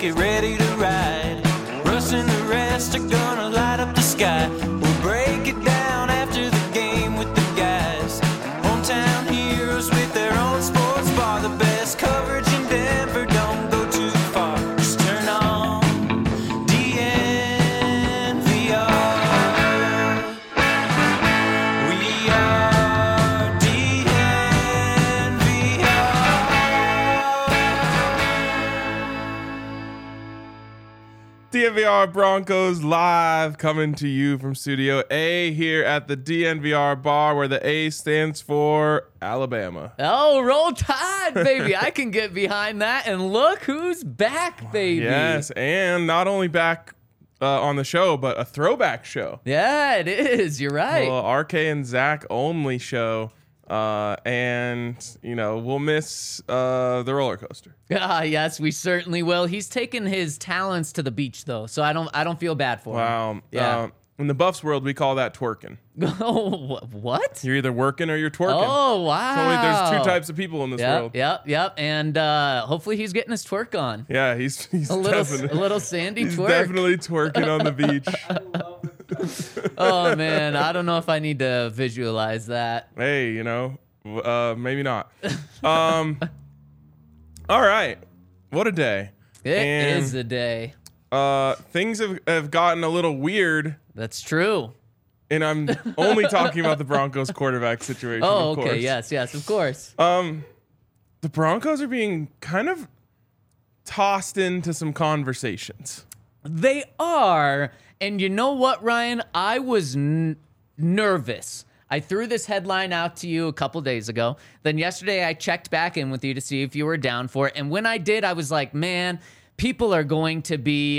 get ready to ride. Russ and the rest are gonna light up the sky. We'll break it down after the game with the guys. Hometown heroes with their own sports bar. The best coverage in Denver, don't go too far. Just turn on DNVR. We are DNVR Broncos live, coming to you from Studio A here at the DNVR bar, where the A stands for Alabama. Oh, roll tide, baby. I can get behind that. And look who's back, baby. Yes, and not only back on the show, but a throwback show. Yeah, it is. You're right. Well, RK and Zach only show. And you know, we'll miss the roller coaster. Yes, we certainly will. He's taken his talents to the beach, though, so I don't feel bad for him. Wow. Yeah. In the Buffs world, we call that twerking. Oh, what? You're either working or you're twerking. Oh, wow. There's two types of people in this world. Yep. And hopefully he's getting his twerk on. Yeah, he's A little sandy he's twerk. definitely twerking on the beach. Oh, man. I don't know if I need to visualize that. Hey, you know, maybe not. All right. What a day. It is a day. Things have gotten a little weird, That's true. and I'm only talking about the Broncos quarterback situation. Oh, of okay. course. Yes, of course. The Broncos are being kind of tossed into some conversations. They are. And you know what, Ryan? I was nervous. I threw this headline out to you a couple days ago. Then yesterday I checked back in with you to see if you were down for it. And when I did, I was like, man, people are going to be...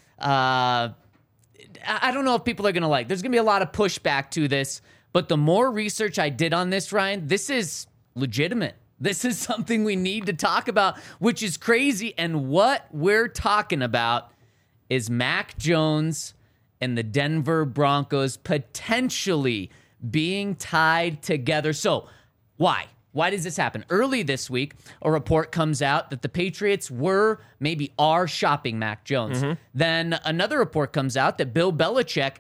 I don't know if people are going to like. There's going to be a lot of pushback to this. But the more research I did on this, Ryan, this is legitimate. This is something we need to talk about, which is crazy. And what we're talking about is Mac Jones and the Denver Broncos potentially being tied together. So why? Why does this happen? Early this week, a report comes out that the Patriots are shopping Mac Jones. Mm-hmm. Then another report comes out that Bill Belichick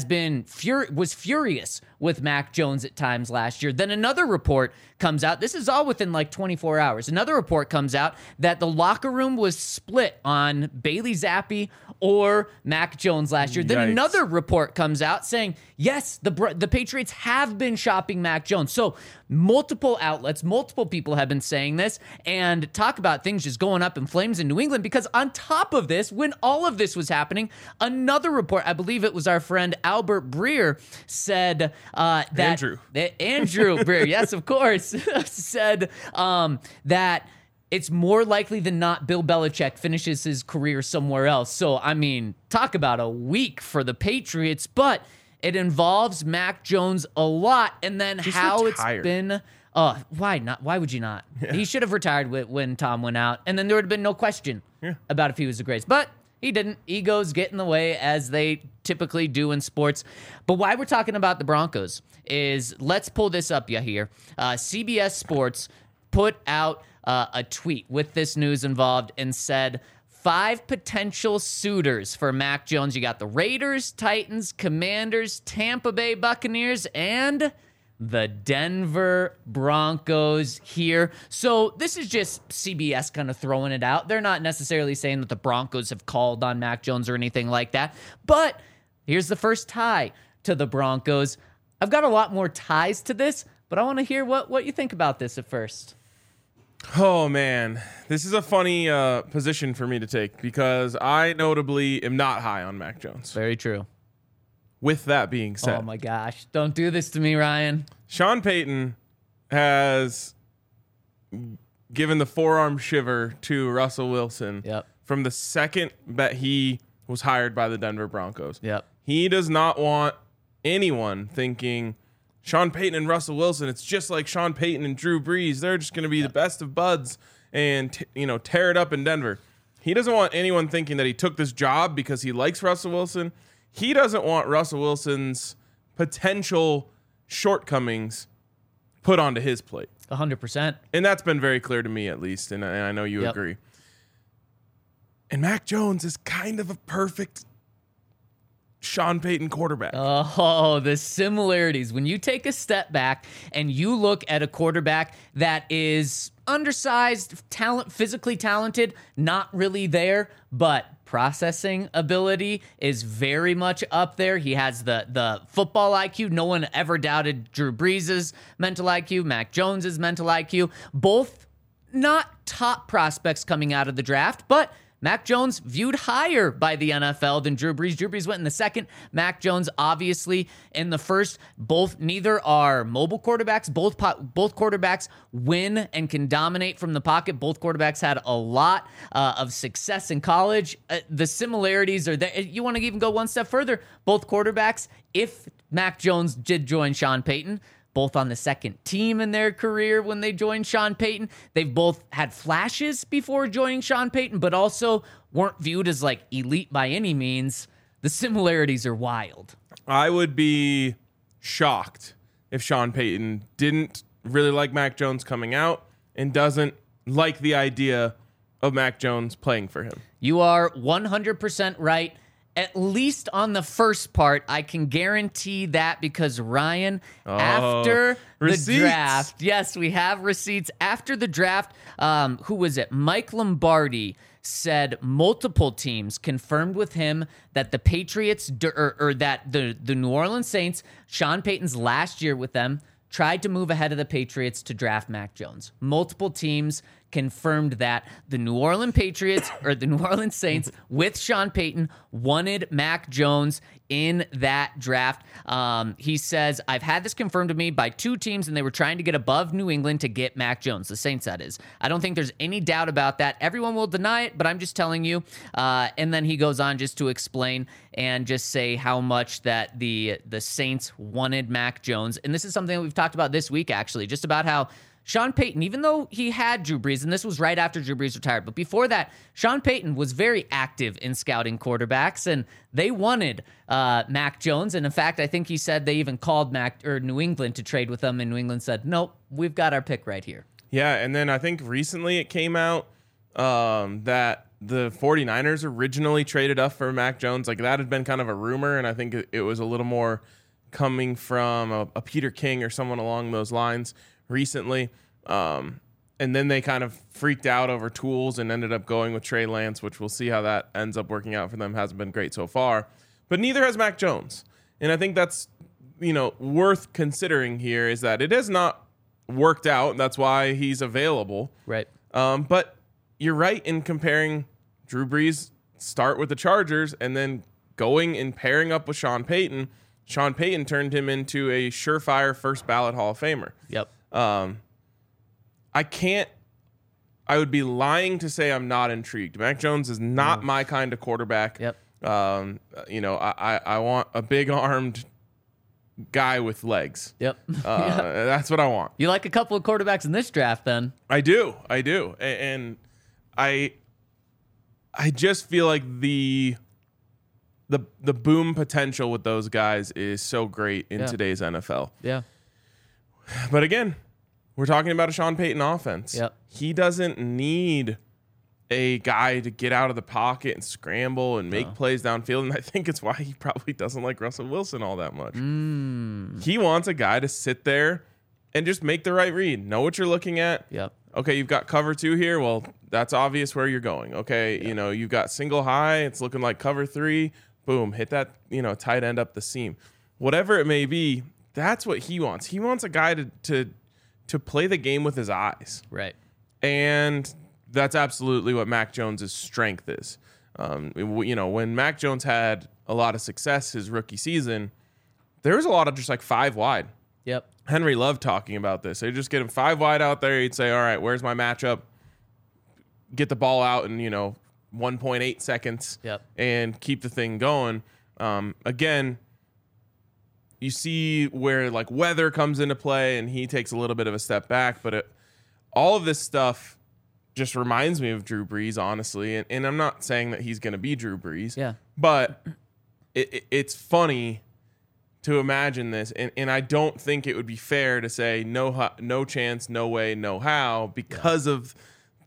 was furious with Mac Jones at times last year. Then another report comes out. This is all within like 24 hours. Another report comes out that the locker room was split on Bailey Zappi or Mac Jones last year. Then Yikes. another report comes out saying, yes, the Patriots have been shopping Mac Jones. So multiple outlets, multiple people have been saying this, and talk about things just going up in flames in New England, because on top of this, when all of this was happening, another report, I believe it was our friend Albert Breer, said that... Andrew Breer, yes, of course, said that it's more likely than not Bill Belichick finishes his career somewhere else. So, I mean, talk about a week for the Patriots, but it involves Mac Jones a lot. And then Just how retire. It's been... why not? Why would you not? Yeah. He should have retired when Tom went out, and then there would have been no question about if he was the greatest. But he didn't. Egos get in the way, as they typically do in sports. But why we're talking about the Broncos is, let's pull this up here. CBS Sports put out a tweet with this news involved and said 5 potential suitors for Mac Jones. You got the Raiders, Titans, Commanders, Tampa Bay Buccaneers, and the Denver Broncos here. So this is just CBS kind of throwing it out. They're not necessarily saying that the Broncos have called on Mac Jones or anything like that. But here's the first tie to the Broncos. I've got a lot more ties to this, but I want to hear what you think about this at first. Oh, man. This is a funny position for me to take, because I notably am not high on Mac Jones. Very true. With that being said, Oh, my gosh. Don't do this to me, Ryan. Sean Payton has given the forearm shiver to Russell Wilson from the second that he was hired by the Denver Broncos. Yep. He does not want anyone thinking Sean Payton and Russell Wilson, it's just like Sean Payton and Drew Brees. They're just going to be the best of buds and tear it up in Denver. He doesn't want anyone thinking that he took this job because he likes Russell Wilson. He doesn't want Russell Wilson's potential shortcomings put onto his plate. 100%. And that's been very clear to me, at least, and I know you agree. And Mac Jones is kind of a perfect Sean Payton quarterback. Oh, the similarities. When you take a step back and you look at a quarterback that is undersized, physically talented, not really there, but processing ability is very much up there. He has the football IQ. No one ever doubted Drew Brees' mental IQ, Mac Jones' mental IQ. Both not top prospects coming out of the draft, but Mac Jones viewed higher by the NFL than Drew Brees. Drew Brees went in the second. Mac Jones, obviously, in the first. Neither are mobile quarterbacks. Both quarterbacks win and can dominate from the pocket. Both quarterbacks had a lot of success in college. The similarities are there. You want to even go one step further. Both quarterbacks, if Mac Jones did join Sean Payton, both on the second team in their career when they joined Sean Payton. They've both had flashes before joining Sean Payton, but also weren't viewed as like elite by any means. The similarities are wild. I would be shocked if Sean Payton didn't really like Mac Jones coming out and doesn't like the idea of Mac Jones playing for him. You are 100% right. At least on the first part, I can guarantee that because Ryan, after receipts. The draft, yes, we have receipts. After the draft, who was it? Mike Lombardi said multiple teams confirmed with him that the Patriots, or that the New Orleans Saints, Sean Payton's last year with them, tried to move ahead of the Patriots to draft Mac Jones. Multiple teams confirmed that the New Orleans Patriots or the New Orleans Saints with Sean Payton wanted Mac Jones in that draft. He says, I've had this confirmed to me by two teams, and they were trying to get above New England to get Mac Jones. The Saints, that is. I don't think there's any doubt about that. Everyone will deny it, but I'm just telling you. And then he goes on just to explain and just say how much that the Saints wanted Mac Jones. And this is something that we've talked about this week, actually, just about how Sean Payton, even though he had Drew Brees, and this was right after Drew Brees retired, but before that, Sean Payton was very active in scouting quarterbacks, and they wanted Mac Jones. And in fact, I think he said they even called New England to trade with them, and New England said, nope, we've got our pick right here. Yeah, and then I think recently it came out that the 49ers originally traded up for Mac Jones. Like, that had been kind of a rumor, and I think it was a little more coming from a Peter King or someone along those lines recently. And then they kind of freaked out over tools and ended up going with Trey Lance, which we'll see how that ends up working out for them. Hasn't been great so far, but neither has Mac Jones. And I think that's, worth considering here is that it has not worked out. That's why he's available. Right. But you're right in comparing Drew Brees start with the Chargers and then going and pairing up with Sean Payton. Sean Payton turned him into a surefire first ballot Hall of Famer. Yep. I would be lying to say I'm not intrigued. Mac Jones is not my kind of quarterback. Yep. I want a big armed guy with legs. Yep. That's what I want. You like a couple of quarterbacks in this draft then? I do. And I just feel like the boom potential with those guys is so great in today's NFL. Yeah. But again, we're talking about a Sean Payton offense. Yep. He doesn't need a guy to get out of the pocket and scramble and make plays downfield. And I think it's why he probably doesn't like Russell Wilson all that much. He wants a guy to sit there and just make the right read. Know what you're looking at. Yep. Okay, you've got cover 2 here. Well, that's obvious where you're going. Okay, you've got single high. It's looking like cover 3. Boom, hit that, tight end up the seam. Whatever it may be, that's what he wants. He wants a guy to play the game with his eyes. Right. And that's absolutely what Mac Jones' strength is. When Mac Jones had a lot of success his rookie season, there was a lot of just like 5 wide. Yep. Henry loved talking about this. They'd just get him 5 wide out there. He'd say, all right, where's my matchup? Get the ball out in, 1.8 seconds. Yep. And keep the thing going. Again, you see where like weather comes into play and he takes a little bit of a step back, but all of this stuff just reminds me of Drew Brees, honestly. And I'm not saying that he's going to be Drew Brees, but it's funny to imagine this. And I don't think it would be fair to say no chance, no way, no how because of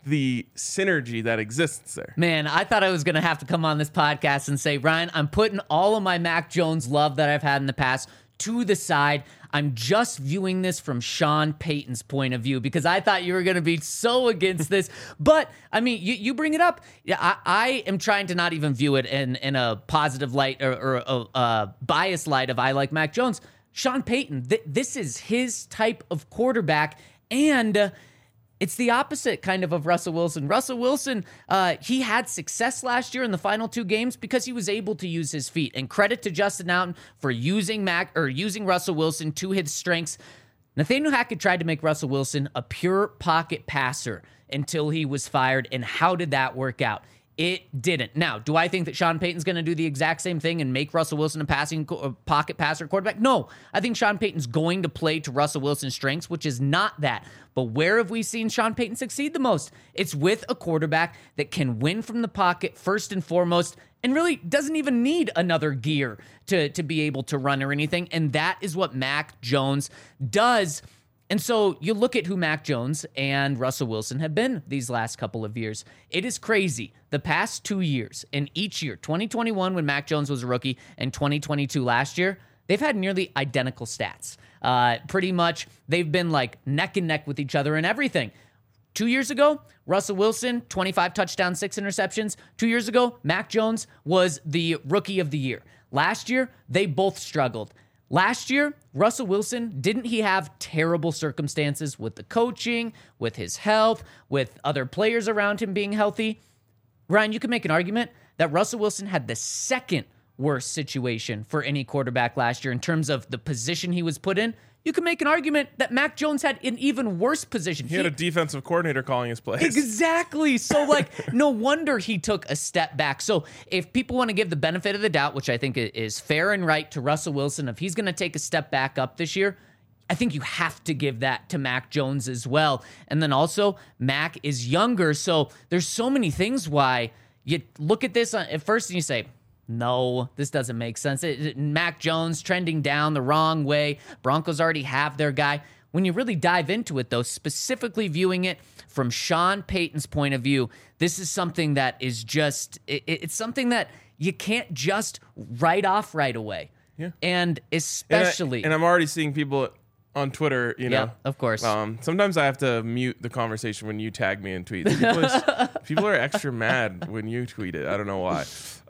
the synergy that exists there. Man, I thought I was going to have to come on this podcast and say, Ryan, I'm putting all of my Mac Jones love that I've had in the past to the side. I'm just viewing this from Sean Payton's point of view because I thought you were going to be so against this. But, I mean, you bring it up. Yeah, I am trying to not even view it in a positive light or a biased light of I like Mac Jones. Sean Payton, this is his type of quarterback, and it's the opposite kind of Russell Wilson. Russell Wilson, he had success last year in the final 2 games because he was able to use his feet. And credit to Justin Allen for using Russell Wilson to his strengths. Nathaniel Hackett tried to make Russell Wilson a pure pocket passer until he was fired. And how did that work out? It didn't. Now, do I think that Sean Payton's going to do the exact same thing and make Russell Wilson a pocket passer quarterback? No. I think Sean Payton's going to play to Russell Wilson's strengths, which is not that. But where have we seen Sean Payton succeed the most? It's with a quarterback that can win from the pocket first and foremost and really doesn't even need another gear to be able to run or anything. And that is what Mac Jones does. And so you look at who Mac Jones and Russell Wilson have been these last couple of years. It is crazy. The past 2 years, and each year, 2021 when Mac Jones was a rookie and 2022 last year, they've had nearly identical stats. Pretty much they've been like neck and neck with each other in everything. 2 years ago, Russell Wilson, 25 touchdowns, 6 interceptions. 2 years ago, Mac Jones was the rookie of the year. Last year, they both struggled. Last year, Russell Wilson, didn't he have terrible circumstances with the coaching, with his health, with other players around him being healthy? Ryan, you can make an argument that Russell Wilson had the second worst situation for any quarterback last year in terms of the position he was put in. You can make an argument that Mac Jones had an even worse position. He had a defensive coordinator calling his plays. Exactly. So, no wonder he took a step back. So, if people want to give the benefit of the doubt, which I think is fair and right to Russell Wilson, if he's going to take a step back up this year, I think you have to give that to Mac Jones as well. And then also, Mac is younger. So, there's so many things why you look at this at first and you say, no, this doesn't make sense. Mac Jones trending down the wrong way. Broncos already have their guy. When you really dive into it, though, specifically viewing it from Sean Payton's point of view, this is something that is just, it's something that you can't just write off right away. Yeah. And especially. And I'm already seeing people on Twitter, Yeah, of course. Sometimes I have to mute the conversation when you tag me in tweets. People are extra mad when you tweet it. I don't know why.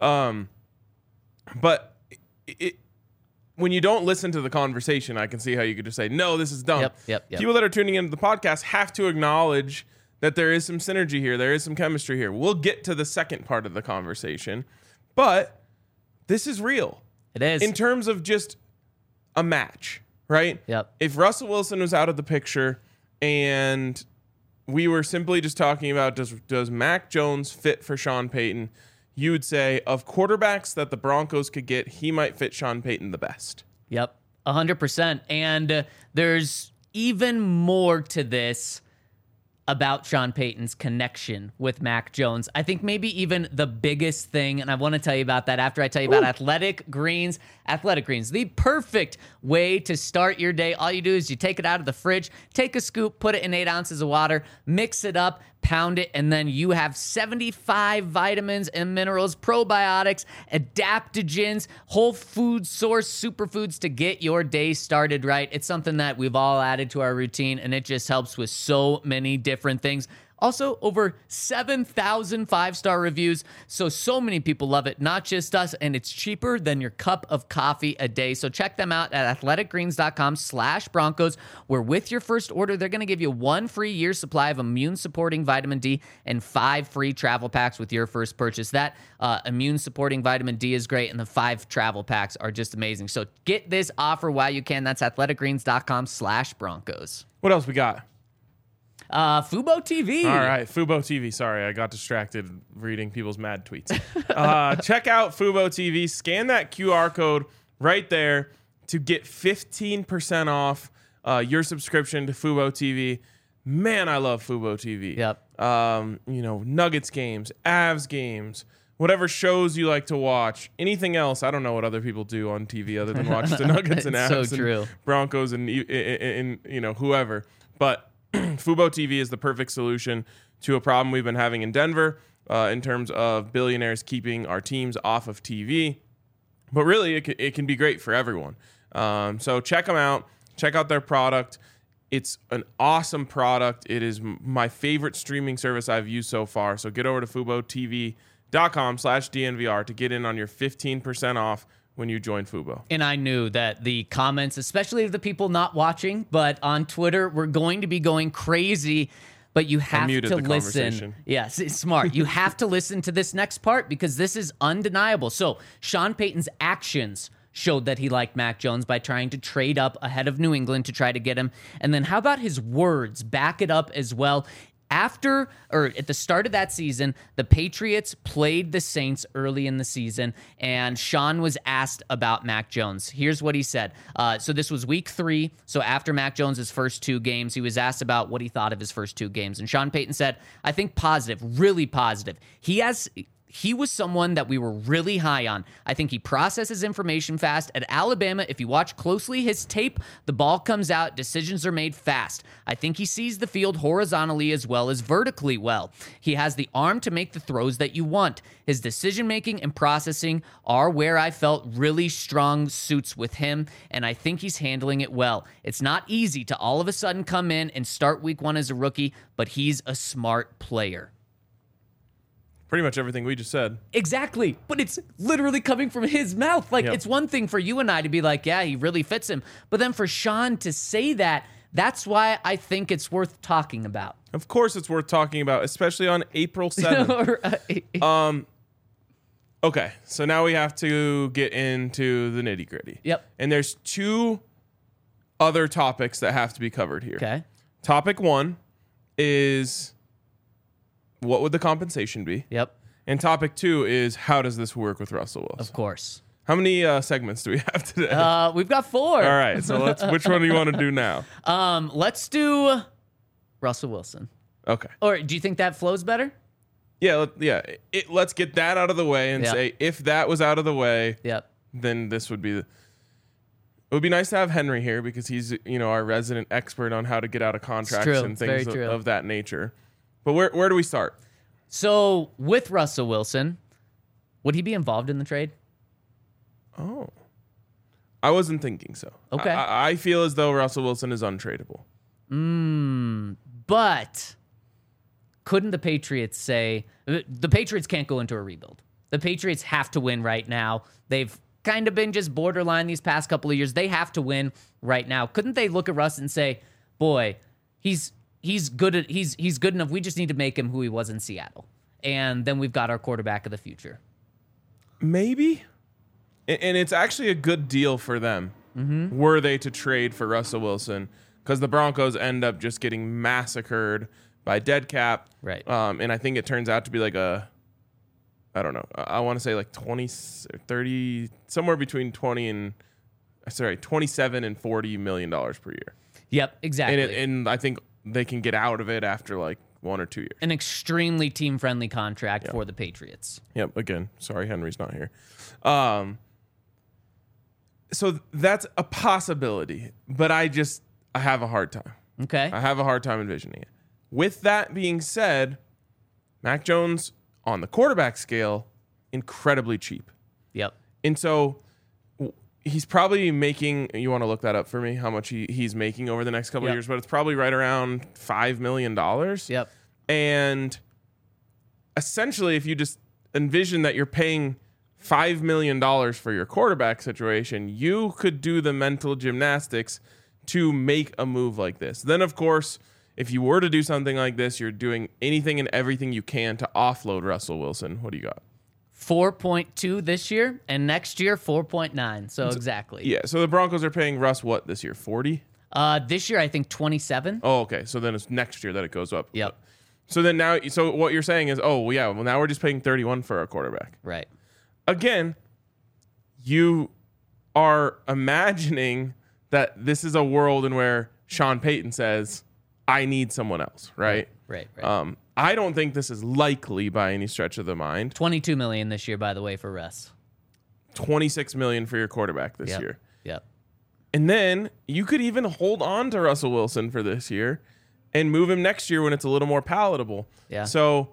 But when you don't listen to the conversation, I can see how you could just say, no, this is dumb. Yep. People that are tuning into the podcast have to acknowledge that there is some synergy here. There is some chemistry here. We'll get to the second part of the conversation, but this is real. It is. In terms of just a match, right? Yep. If Russell Wilson was out of the picture and we were simply just talking about does Mac Jones fit for Sean Payton, you would say of quarterbacks that the Broncos could get, he might fit Sean Payton the best. Yep, 100%. And there's even more to this about Sean Payton's connection with Mac Jones. I think maybe even the biggest thing, and I want to tell you about that after I tell you about Athletic Greens. Athletic Greens, the perfect way to start your day. All you do is you take it out of the fridge, take a scoop, put it in 8 ounces of water, mix it up, pound it, and then you have 75 vitamins and minerals, probiotics, adaptogens, whole food source superfoods to get your day started right. It's something that we've all added to our routine, and it just helps with so many different things. Also, over 7,000 5-star reviews. So many people love it, not just us, and it's cheaper than your cup of coffee a day. So check them out at athleticgreens.com/Broncos, where with your first order, they're going to give you 1 free year supply of immune-supporting vitamin D and 5 free travel packs with your first purchase. That immune-supporting vitamin D is great, and the 5 travel packs are just amazing. So get this offer while you can. That's athleticgreens.com/Broncos. What else we got? Fubo TV. All right, Fubo TV. Sorry, I got distracted reading people's mad tweets. Check out Fubo TV. Scan that QR code right there to get 15% off your subscription to Fubo TV. Man, I love Fubo TV. Yep. Nuggets games, Avs games, whatever shows you like to watch. Anything else? I don't know what other people do on TV other than watch the Nuggets and Avs so true. and Broncos and whoever. But Fubo TV is the perfect solution to a problem we've been having in Denver in terms of billionaires keeping our teams off of TV. But really, it can be great for everyone. So check them out. Check out their product. It's an awesome product. It is my favorite streaming service I've used so far. So get over to FuboTV.com/DNVR to get in on your 15% off when you join Fubo. And I knew that the comments, especially of the people not watching, but on Twitter, were going to be going crazy. But you have to listen. Yes, it's smart. You have to listen to this next part because this is undeniable. So Sean Payton's actions showed that he liked Mac Jones by trying to trade up ahead of New England to try to get him. And then how about his words? Back it up as well. At the start of that season, the Patriots played the Saints early in the season, and Sean was asked about Mac Jones. Here's what he said. So this was week 3. So after Mac Jones' first 2 games, he was asked about what he thought of his first 2 games. And Sean Payton said, I think positive, really positive. He was someone that we were really high on. I think he processes information fast. At Alabama, if you watch closely his tape, the ball comes out, decisions are made fast. I think he sees the field horizontally as well as vertically well. He has the arm to make the throws that you want. His decision-making and processing are where I felt really strong suits with him, and I think he's handling it well. It's not easy to all of a sudden come in and start week 1 as a rookie, but he's a smart player. Pretty much everything we just said. Exactly. But it's literally coming from his mouth. Like, Yep. It's one thing for you and I to be like, yeah, he really fits him. But then for Sean to say that, that's why I think it's worth talking about. Of course it's worth talking about, especially on April 7th. Okay, so now we have to get into the nitty-gritty. Yep. And there's 2 other topics that have to be covered here. Okay. Topic 1 is what would the compensation be? Yep. And topic 2 is how does this work with Russell Wilson? Of course. How many segments do we have today? We've got 4. All right, so which one do you want to do now? Let's do Russell Wilson. Okay. Or do you think that flows better? Yeah, let's get that out of the way and Yep. say if that was out of the way, Yep. then this would be it would be nice to have Henry here because he's, our resident expert on how to get out of contracts true. and things Very true. of that nature. But where do we start? So with Russell Wilson, would he be involved in the trade? Oh. I wasn't thinking so. Okay. I feel as though Russell Wilson is untradeable. But couldn't the Patriots say the Patriots can't go into a rebuild? The Patriots have to win right now. They've kind of been just borderline these past couple of years. They have to win right now. Couldn't they look at Russ and say, "Boy, he's good enough. We just need to make him who he was in Seattle." And then we've got our quarterback of the future. Maybe. And it's actually a good deal for them, were they to trade for Russell Wilson, because the Broncos end up just getting massacred by dead cap. Right. And I think it turns out to be like I want to say like 20 or 30, somewhere between 27 and $40 million per year. Yep, exactly. And I think they can get out of it after like 1 or 2 years. An extremely team-friendly contract for the Patriots. Yep. Again, sorry, Henry's not here. So that's a possibility, but I have a hard time. Okay. I have a hard time envisioning it. With that being said, Mac Jones on the quarterback scale, incredibly cheap. Yep. And so he's probably making, you want to look that up for me, how much he's making over the next couple of years, but it's probably right around $5 million. Yep. And essentially, if you just envision that you're paying $5 million for your quarterback situation, you could do the mental gymnastics to make a move like this. Then, of course, if you were to do something like this, you're doing anything and everything you can to offload Russell Wilson. What do you got? 4.2 this year, and next year 4.9. So exactly. Yeah. So the Broncos are paying Russ what this year? 40? This year I think 27. Oh, okay. So then it's next year that it goes up. Yep. So then now, so what you're saying is, now we're just paying 31 for our quarterback. Right. Again, you are imagining that this is a world in where Sean Payton says, I need someone else, right? Right. I don't think this is likely by any stretch of the mind. $22 million this year, by the way, for Russ. $26 million for your quarterback this year. Yep. And then you could even hold on to Russell Wilson for this year and move him next year when it's a little more palatable. Yeah. So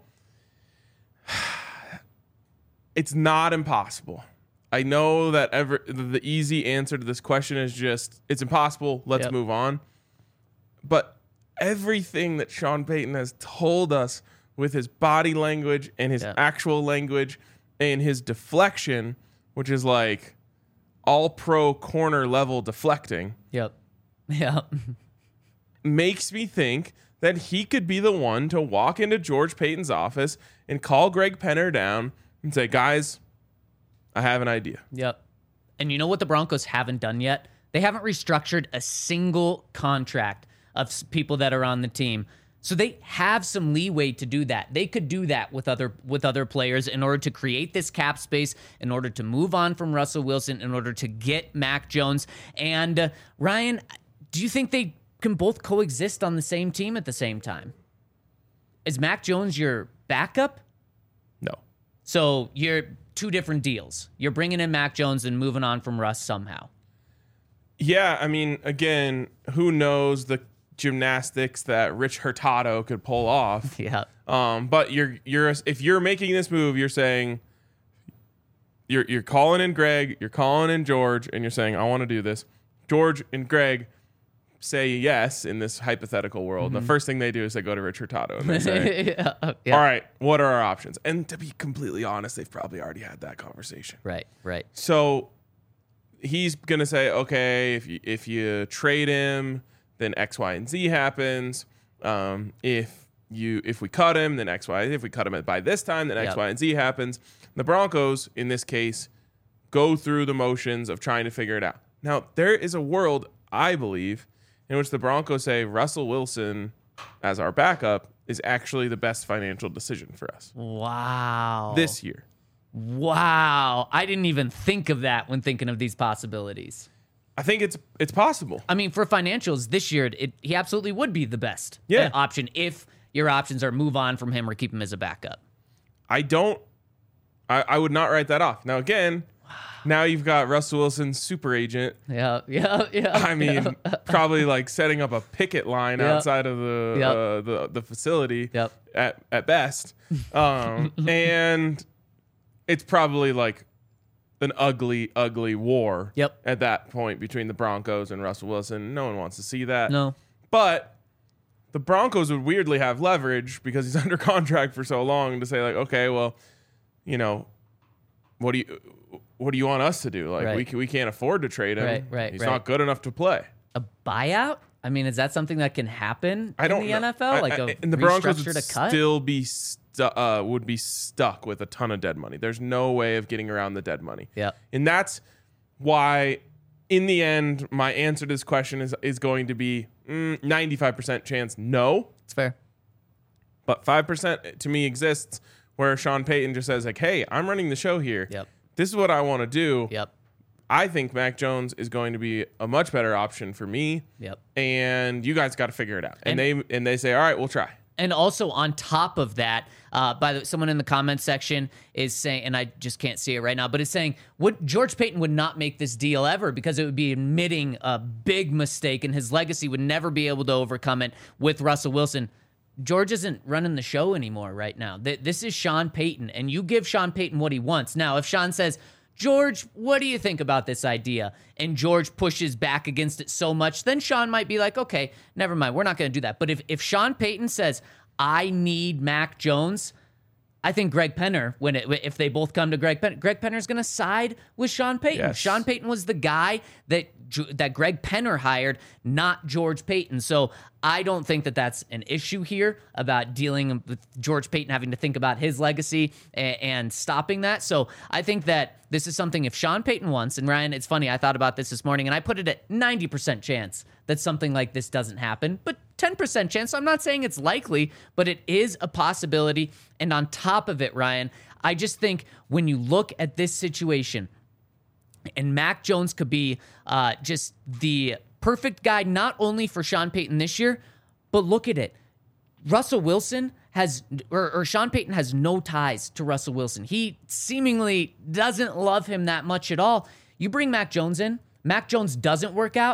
it's not impossible. I know that the easy answer to this question is just, it's impossible. Let's Yep. move on. But everything that Sean Payton has told us with his body language and his Yeah. actual language and his deflection, which is like all pro corner level deflecting, Yep. Yep. makes me think that he could be the one to walk into George Payton's office and call Greg Penner down and say, guys, I have an idea. Yep. And you know what the Broncos haven't done yet? They haven't restructured a single contract of people that are on the team. So they have some leeway to do that. They could do that with other players in order to create this cap space, in order to move on from Russell Wilson, in order to get Mac Jones. And Ryan, do you think they can both coexist on the same team at the same time? Is Mac Jones your backup? No. So you're two different deals. You're bringing in Mac Jones and moving on from Russ somehow. Yeah, I mean, again, who knows the gymnastics that Rich Hurtado could pull off. Yeah. But if you're making this move, you're saying you're calling in Greg, you're calling in George, and you're saying, I want to do this. George and Greg say yes in this hypothetical world. Mm-hmm. And the first thing they do is they go to Rich Hurtado and they say, Yeah. all right, what are our options? And to be completely honest, they've probably already had that conversation. Right. So he's gonna say, okay, if you trade him, then X, Y, and Z happens. If we cut him, then X, Y. If we cut him by this time, then X, Yep. Y, and Z happens. The Broncos, in this case, go through the motions of trying to figure it out. Now, there is a world, I believe, in which the Broncos say Russell Wilson as our backup is actually the best financial decision for us Wow. this year. Wow. I didn't even think of that when thinking of these possibilities. I think it's possible. I mean, for financials this year, he absolutely would be the best option if your options are move on from him or keep him as a backup. I would not write that off. Now, again, now you've got Russell Wilson's super agent. Yeah. I mean, probably like setting up a picket line Yep. outside of the facility Yep. at best. And it's probably like an ugly war Yep. at that point between the Broncos and Russell Wilson. No one wants to see that. No. But the Broncos would weirdly have leverage because he's under contract for so long to say, like, okay, well, you know, what do you want us to do? Like, Right. we can't afford to trade him. Right. He's not good enough to play. A buyout? I mean, is that something that can happen I don't in the know. NFL? And the Broncos would restructured a cut? still be stuck with a ton of dead money. There's no way of getting around the dead money. Yeah. And that's why, in the end, my answer to this question is going to be 95% chance no. It's fair. But 5% to me exists where Sean Payton just says, like, hey, I'm running the show here. Yep. This is what I want to do. Yep. I think Mac Jones is going to be a much better option for me. Yep. And you guys got to figure it out. And they say, all right, we'll try. And also on top of that, someone in the comments section is saying, and I just can't see it right now, but it's saying George Payton would not make this deal ever because it would be admitting a big mistake and his legacy would never be able to overcome it with Russell Wilson. George isn't running the show anymore right now. This is Sean Payton, and you give Sean Payton what he wants. Now, if Sean says, George, what do you think about this idea? And George pushes back against it so much, then Sean might be like, okay, never mind. We're not going to do that. But if Sean Payton says, I need Mac Jones, I think Greg Penner, if they both come to Greg Penner's going to side with Sean Payton. Yes. Sean Payton was the guy that Greg Penner hired, not George Payton. So I don't think that that's an issue here about dealing with George Payton having to think about his legacy and stopping that. So I think that this is something if Sean Payton wants, and Ryan, it's funny, I thought about this morning, and I put it at 90% chance that something like this doesn't happen, but 10% chance. I'm not saying it's likely, but it is a possibility. And on top of it, Ryan, I just think when you look at this situation, and Mac Jones could be just the perfect guy, not only for Sean Payton this year, but look at it. Russell Wilson or Sean Payton has no ties to Russell Wilson. He seemingly doesn't love him that much at all. You bring Mac Jones in, Mac Jones doesn't work out.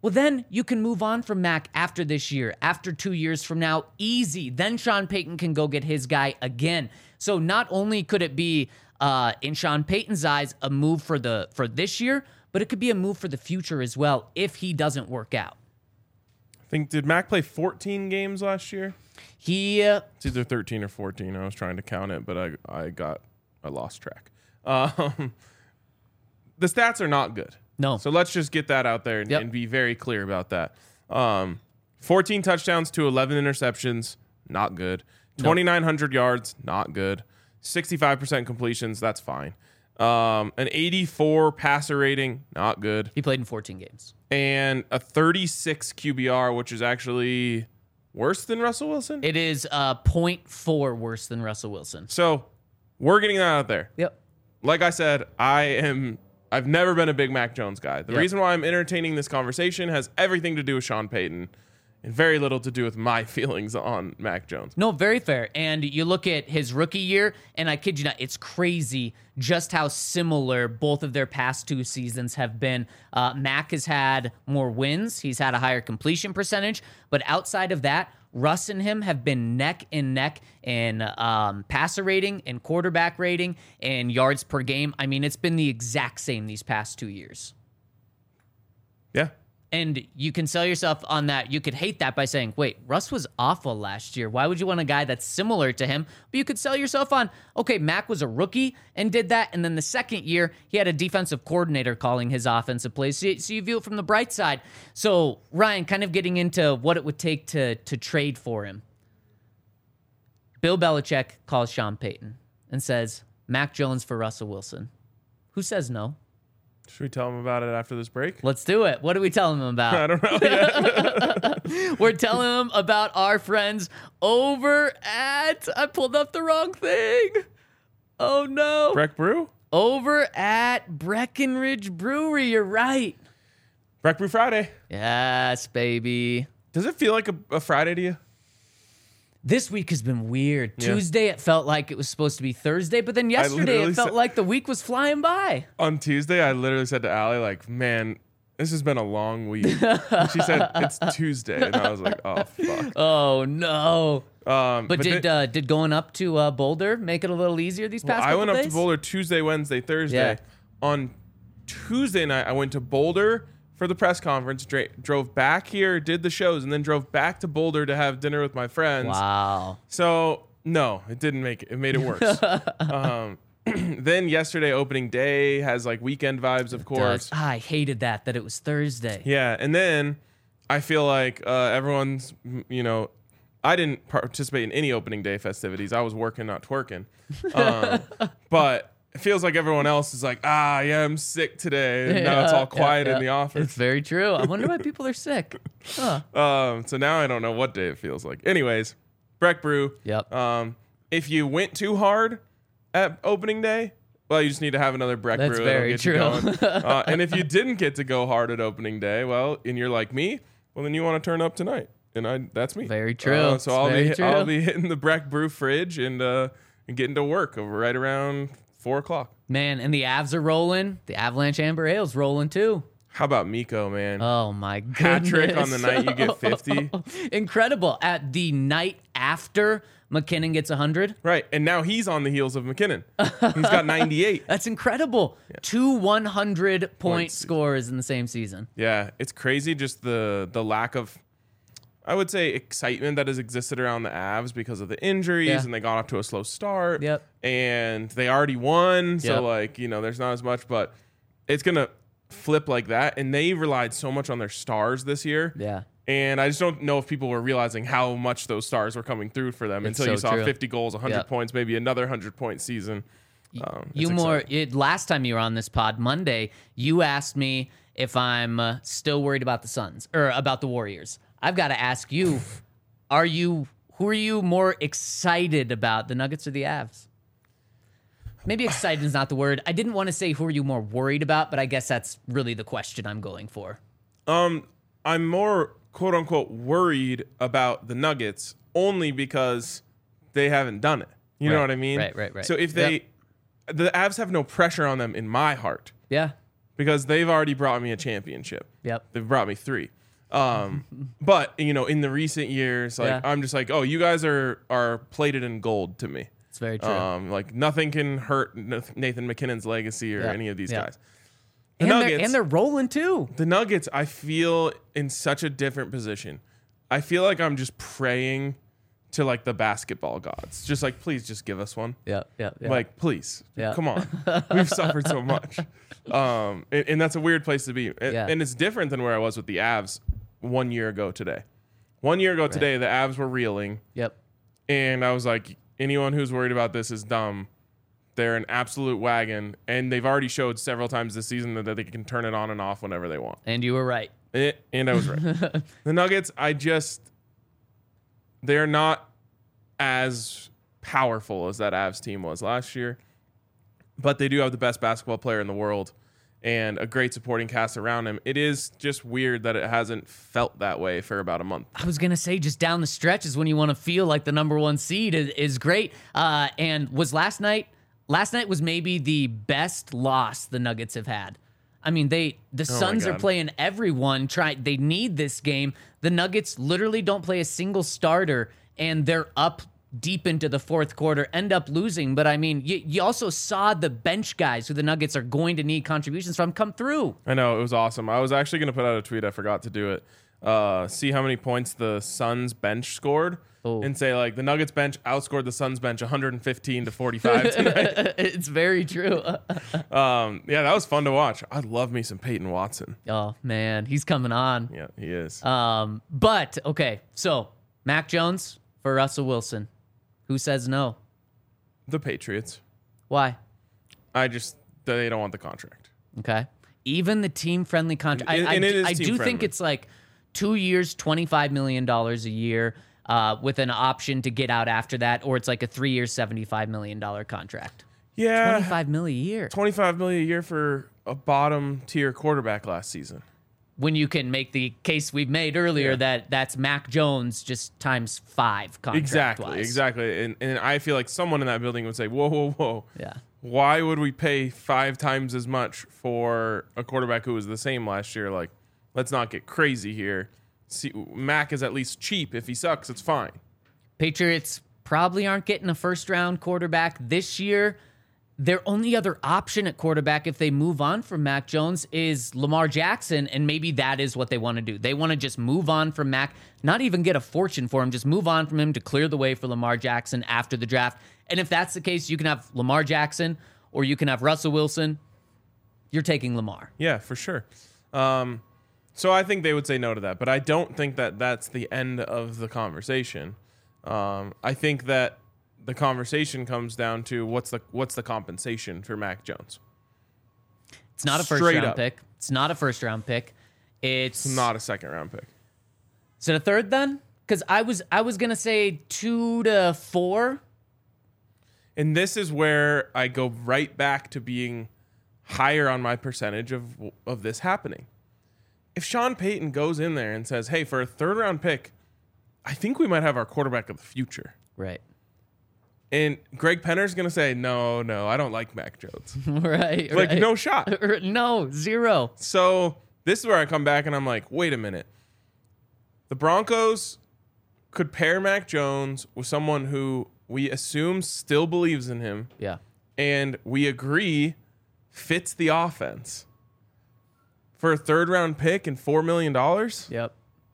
well, then you can move on from Mac after this year, after 2 years from now, easy. Then Sean Payton can go get his guy again. So not only could it be, in Sean Payton's eyes, a move for this year, but it could be a move for the future as well if he doesn't work out. I think, did Mac play 14 games last year? It's either 13 or 14. I was trying to count it, but I lost track. The stats are not good. No. So let's just get that out there and be very clear about that. 14 touchdowns to 11 interceptions, not good. 2,900 yards, not good. 65% completions, that's fine. An 84 passer rating, not good. He played in 14 games. And a 36 QBR, which is actually worse than Russell Wilson. It is 0.4 worse than Russell Wilson. So we're getting that out there. Yep. Like I said, I've never been a big Mac Jones guy. The reason why I'm entertaining this conversation has everything to do with Sean Payton and very little to do with my feelings on Mac Jones. No, very fair. And you look at his rookie year, and I kid you not, it's crazy just how similar both of their past 2 seasons have been. Mac has had more wins. He's had a higher completion percentage. But outside of that, Russ and him have been neck and neck in passer rating and quarterback rating and yards per game. I mean, it's been the exact same these past 2 years. Yeah. And you can sell yourself on that. You could hate that by saying, wait, Russ was awful last year. Why would you want a guy that's similar to him? But you could sell yourself on, okay, Mac was a rookie and did that. And then the second year, he had a defensive coordinator calling his offensive plays. So you view it from the bright side. So, Ryan, kind of getting into what it would take to trade for him. Bill Belichick calls Sean Payton and says, Mac Jones for Russell Wilson. Who says no? Should we tell him about it after this break? Let's do it. What are we telling him about? I don't know yet. We're telling him about our friends over at... I pulled up the wrong thing. Oh, no. Breck Brew? Over at Breckenridge Brewery. You're right. Breck Brew Friday. Yes, baby. Does it feel like a Friday to you? This week has been weird. Yeah. Tuesday, it felt like it was supposed to be Thursday, but then yesterday, it felt like the week was flying by. On Tuesday, I literally said to Allie, like, man, this has been a long week. And she said, it's Tuesday. And I was like, oh, fuck. Oh, no. But did going up to Boulder make it a little easier these past couple days? I went up to Boulder Tuesday, Wednesday, Thursday. Yeah. On Tuesday night, I went to Boulder for the press conference, drove back here, did the shows, and then drove back to Boulder to have dinner with my friends. Wow. So, no, it didn't make it. It made it worse. Then yesterday, opening day, has like weekend vibes, of course. I hated that it was Thursday. Yeah, and then I feel like everyone's, I didn't participate in any opening day festivities. I was working, not twerking. But it feels like everyone else is like, yeah, I'm sick today. And now it's all quiet in the office. It's very true. I wonder why people are sick. Huh. So now I don't know what day it feels like. Anyways, Breck Brew. Yep. If you went too hard at opening day, well, you just need to have another Breck That's Brew. very true. And if you didn't get to go hard at opening day, well, and you're like me, well, then you want to turn up tonight. And that's me. Very true. So I'll be hitting the Breck Brew fridge and getting to work right around 4 o'clock. Man, and the Avs are rolling. The Avalanche Amber Ale's rolling too. How about Miko, man? Oh my goodness. Hat trick on the night you get 50. Incredible. At the night after McKinnon gets 100. Right. And now he's on the heels of McKinnon. He's got 98. That's incredible. Yeah. 2 100-point scores in the same season. Yeah. It's crazy just the lack of, I would say, excitement that has existed around the Avs because of the injuries, and they got off to a slow start. Yep. And they already won, so there's not as much, but it's gonna flip like that. And they relied so much on their stars this year. Yeah. And I just don't know if people were realizing how much those stars were coming through for them until you saw 50 goals, 100 points, maybe another 100-point season. Last time you were on this pod, Monday, you asked me if I'm still worried about the Suns or about the Warriors. I've got to ask you, who are you more excited about, the Nuggets or the Avs? Maybe excited is not the word. I didn't want to say who are you more worried about, but I guess that's really the question I'm going for. I'm more quote unquote worried about the Nuggets only because they haven't done it. You know what I mean? Right. So if the Avs have no pressure on them in my heart. Yeah. because they've already brought me a championship. Yep. They've brought me 3. But in the recent years, like, Yeah. I'm just like, oh, you guys are plated in gold to me. It's very true. Like nothing can hurt Nathan McKinnon's legacy or Yeah. any of these Yeah. guys. and they're rolling too. The Nuggets, I feel in such a different position. I feel like I'm just praying to like the basketball gods. Just like, please just give us one. Yeah. Like, please. Yeah. Come on. We've suffered so much. And that's a weird place to be. Yeah. And it's different than where I was with the Avs 1 year ago today. 1 year ago today, the Avs were reeling. Yep. And I was like, anyone who's worried about this is dumb. They're an absolute wagon. And they've already showed several times this season that they can turn it on and off whenever they want. And you were right. And I was right. The Nuggets, they're not as powerful as that Avs team was last year, but they do have the best basketball player in the world and a great supporting cast around him. It is just weird that it hasn't felt that way for about a month. I was going to say just down the stretch is when you want to feel like the number 1 seed is great. And was last night was maybe the best loss the Nuggets have had. I mean, the Suns are God. playing everyone. They need this game. The Nuggets literally don't play a single starter, and they're up deep into the fourth quarter, end up losing. But I mean, you also saw the bench guys who the Nuggets are going to need contributions from come through. I know, it was awesome. I was actually going to put out a tweet. I forgot to do it. See how many points the Suns bench scored. Oh. And say, like, the Nuggets bench outscored the Suns bench 115-45 tonight. It's very true. Yeah, that was fun to watch. I love me some Peyton Watson. Oh, man, he's coming on. Yeah, he is. But, okay, so Mac Jones for Russell Wilson. Who says no? The Patriots. Why? They don't want the contract. Okay. Even the team-friendly contract. And it is I do team-friendly. think it's like 2 years, $25 million a year with an option to get out after that, or it's like a 3-year, $75 million contract. Yeah. $25 million a year. $25 million a year for a bottom-tier quarterback last season. When you can make the case we've made earlier that that's Mac Jones just times 5 contract-wise. Exactly. And I feel like someone in that building would say, whoa. Yeah. Why would we pay 5 times as much for a quarterback who was the same last year? Like, let's not get crazy here. See, Mac is at least cheap. If he sucks, it's fine. Patriots probably aren't getting a first-round quarterback this year. Their only other option at quarterback, if they move on from Mac Jones, is Lamar Jackson, and maybe that is what they want to do. They want to just move on from Mac, not even get a fortune for him, just move on from him to clear the way for Lamar Jackson after the draft. And if that's the case, you can have Lamar Jackson or you can have Russell Wilson. You're taking Lamar. Yeah, for sure. So I think they would say no to that, but I don't think that that's the end of the conversation. I think that the conversation comes down to what's the compensation for Mac Jones. It's not a Straight first-round up. pick. It's not a first-round pick. It's Not a second-round pick. Is it a third then? Because I was gonna say 2 to 4. And this is where I go right back to being higher on my percentage of this happening. If Sean Payton goes in there and says, hey, for a third-round pick, I think we might have our quarterback of the future. Right. And Greg Penner's going to say, no, I don't like Mac Jones. Right. Like, right. no shot. No, 0. So this is where I come back and I'm like, wait a minute. The Broncos could pair Mac Jones with someone who we assume still believes in him, Yeah. and we agree fits the offense for a third-round pick and $4 million. Yep.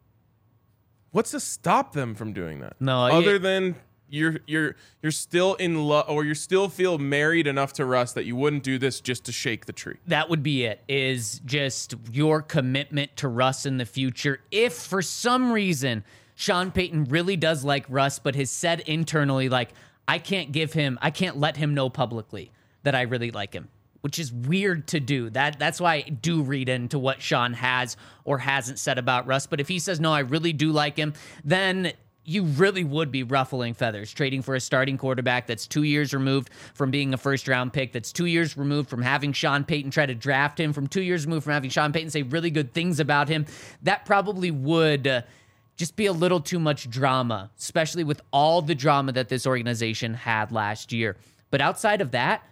What's to stop them from doing that? No, other than you're still in love, or you still feel married enough to Russ that you wouldn't do this just to shake the tree. That would be it, is just your commitment to Russ in the future. If for some reason Sean Payton really does like Russ, but has said internally, like, I can't let him know publicly that I really like him, which is weird to do. That's why I do read into what Sean has or hasn't said about Russ. But if he says, no, I really do like him, then you really would be ruffling feathers, trading for a starting quarterback that's 2 years removed from being a first-round pick, that's 2 years removed from having Sean Payton try to draft him, from 2 years removed from having Sean Payton say really good things about him. That probably would just be a little too much drama, especially with all the drama that this organization had last year. But outside of that,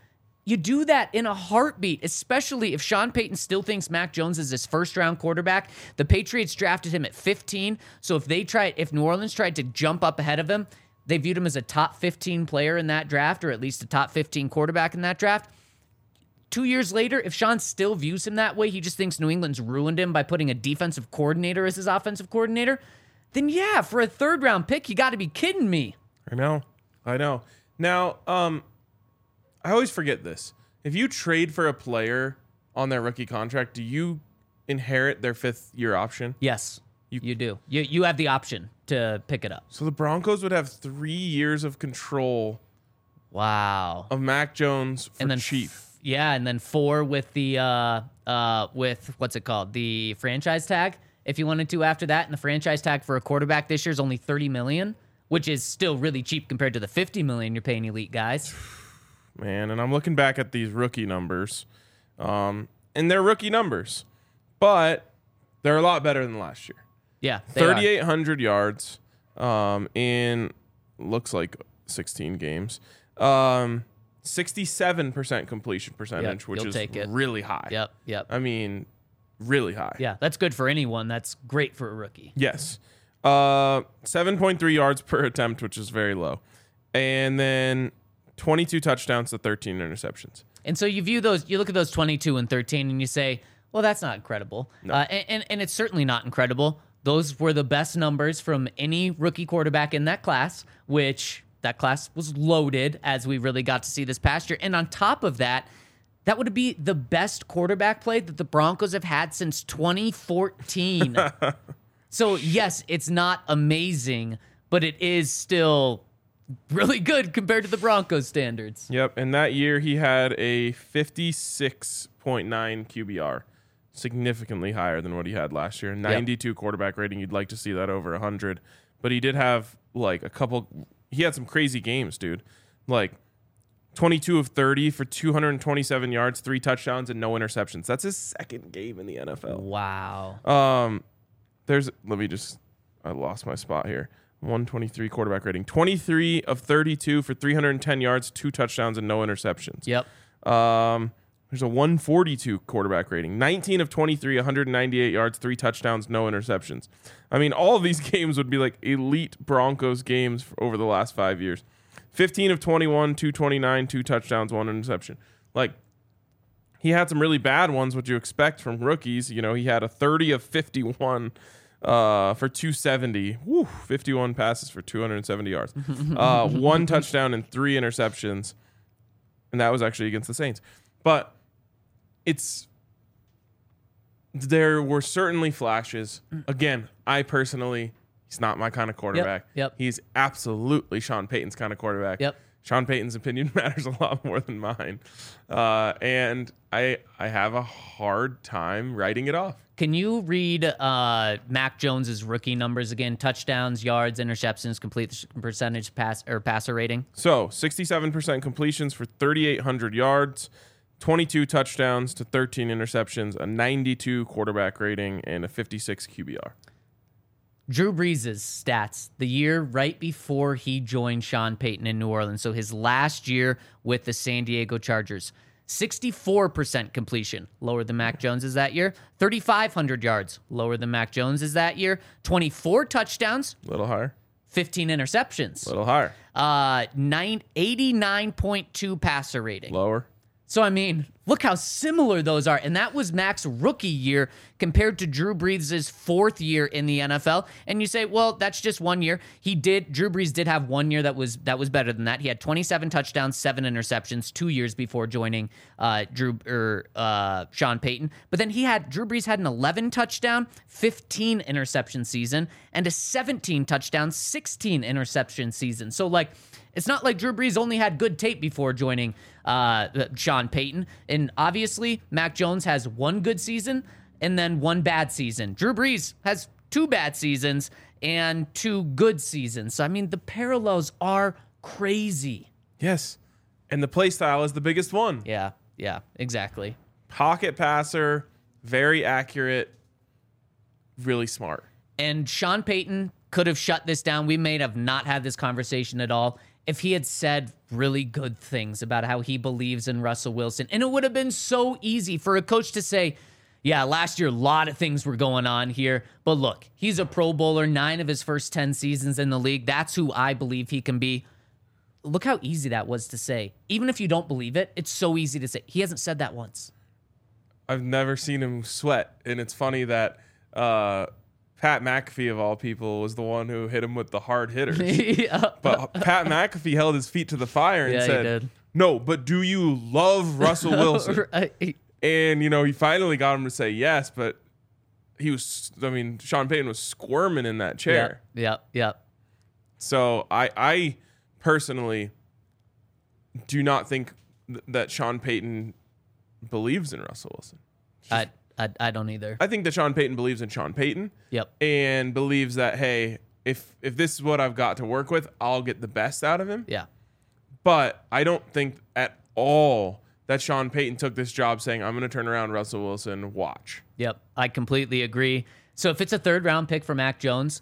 You do that in a heartbeat, especially if Sean Payton still thinks Mac Jones is his first-round quarterback. The Patriots drafted him at 15, so if New Orleans tried to jump up ahead of him, they viewed him as a top 15 player in that draft, or at least a top 15 quarterback in that draft. 2 years later, if Sean still views him that way, he just thinks New England's ruined him by putting a defensive coordinator as his offensive coordinator, then yeah, for a third-round pick, you got to be kidding me. I know. Now, I always forget this. If you trade for a player on their rookie contract, do you inherit their 5th-year option? Yes, you do. You have the option to pick it up. So the Broncos would have 3 years of control. Wow. Of Mac Jones for cheap. And then 4 with the with what's it called? The franchise tag. If you wanted to after that, and the franchise tag for a quarterback this year is only $30 million, which is still really cheap compared to the $50 million you're paying elite guys. Man, and I'm looking back at these rookie numbers, and they're rookie numbers, but they're a lot better than last year. Yeah, 3,800 yards in looks like 16 games. 67% completion percentage, which is really high. Yep. I mean, really high. Yeah, that's good for anyone. That's great for a rookie. Yes. 7.3 yards per attempt, which is very low. And then 22 touchdowns to 13 interceptions. And so you look at those 22 and 13 and you say, well, that's not incredible. No. And it's certainly not incredible. Those were the best numbers from any rookie quarterback in that class, which that class was loaded as we really got to see this past year. And on top of that, that would be the best quarterback play that the Broncos have had since 2014. So, yes, it's not amazing, but it is still really good compared to the Broncos standards. Yep, and that year he had a 56.9 QBR, significantly higher than what he had last year. 92 quarterback rating. You'd like to see that over 100. But he did have, like, he had some crazy games, dude. Like, 22 of 30 for 227 yards, 3 touchdowns, and no interceptions. That's his second game in the NFL. Wow. I lost my spot here. 123 quarterback rating. 23 of 32 for 310 yards, 2 touchdowns, and no interceptions. Yep. There's a 142 quarterback rating. 19 of 23, 198 yards, 3 touchdowns, no interceptions. I mean, all of these games would be like elite Broncos games over the last 5 years. 15 of 21, 229, 2 touchdowns, 1 interception. Like, he had some really bad ones, what you expect from rookies. You know, he had a 30 of 51 for 270. 51 passes for 270 yards. 1 touchdown and 3 interceptions. And that was actually against the Saints. But there were certainly flashes. Again, he's not my kind of quarterback. Yep. He's absolutely Sean Payton's kind of quarterback. Yep. Sean Payton's opinion matters a lot more than mine. And I have a hard time writing it off. Can you read Mac Jones's rookie numbers again? Touchdowns, yards, interceptions, complete percentage, passer rating. So 67% completions for 3,800 yards, 22 touchdowns to 13 interceptions, a 92 quarterback rating, and a 56 QBR. Drew Brees' stats the year right before he joined Sean Payton in New Orleans. So his last year with the San Diego Chargers. 64% completion, lower than Mac Jones's that year. 3,500 yards, lower than Mac Jones's that year. 24 touchdowns. A little higher. 15 interceptions. A little higher. 89.2 passer rating. Lower. So, I mean, look how similar those are. And that was Mac's rookie year compared to Drew Brees' 4th year in the NFL. And you say, well, that's just 1 year. Drew Brees did have 1 year that was better than that. He had 27 touchdowns, 7 interceptions 2 years before joining Sean Payton. But then Drew Brees had an 11 touchdown, 15 interception season and a 17 touchdown, 16 interception season. So, like, it's not like Drew Brees only had good tape before joining Sean Payton. And obviously, Mac Jones has 1 good season and then 1 bad season. Drew Brees has 2 bad seasons and 2 good seasons. So, I mean, the parallels are crazy. Yes. And the play style is the biggest one. Yeah, exactly. Pocket passer, very accurate, really smart. And Sean Payton could have shut this down. We may have not had this conversation at all if he had said really good things about how he believes in Russell Wilson. And it would have been so easy for a coach to say, yeah, last year, a lot of things were going on here. But look, he's a Pro Bowler, 9 of his first 10 seasons in the league. That's who I believe he can be. Look how easy that was to say. Even if you don't believe it, it's so easy to say. He hasn't said that once. I've never seen him sweat. And it's funny that Pat McAfee, of all people, was the one who hit him with the hard hitters. Yeah. But Pat McAfee held his feet to the fire and Yeah, he said, did. no, but do you love Russell Wilson? Right. And, he finally got him to say yes, but Sean Payton was squirming in that chair. Yep. So I personally do not think that Sean Payton believes in Russell Wilson. I don't either. I think that Sean Payton believes in Sean Payton. Yep. And believes that, hey, if this is what I've got to work with, I'll get the best out of him. Yeah. But I don't think at all that Sean Payton took this job saying, I'm going to turn around Russell Wilson, watch. Yep. I completely agree. So if it's a 3rd round pick for Mac Jones,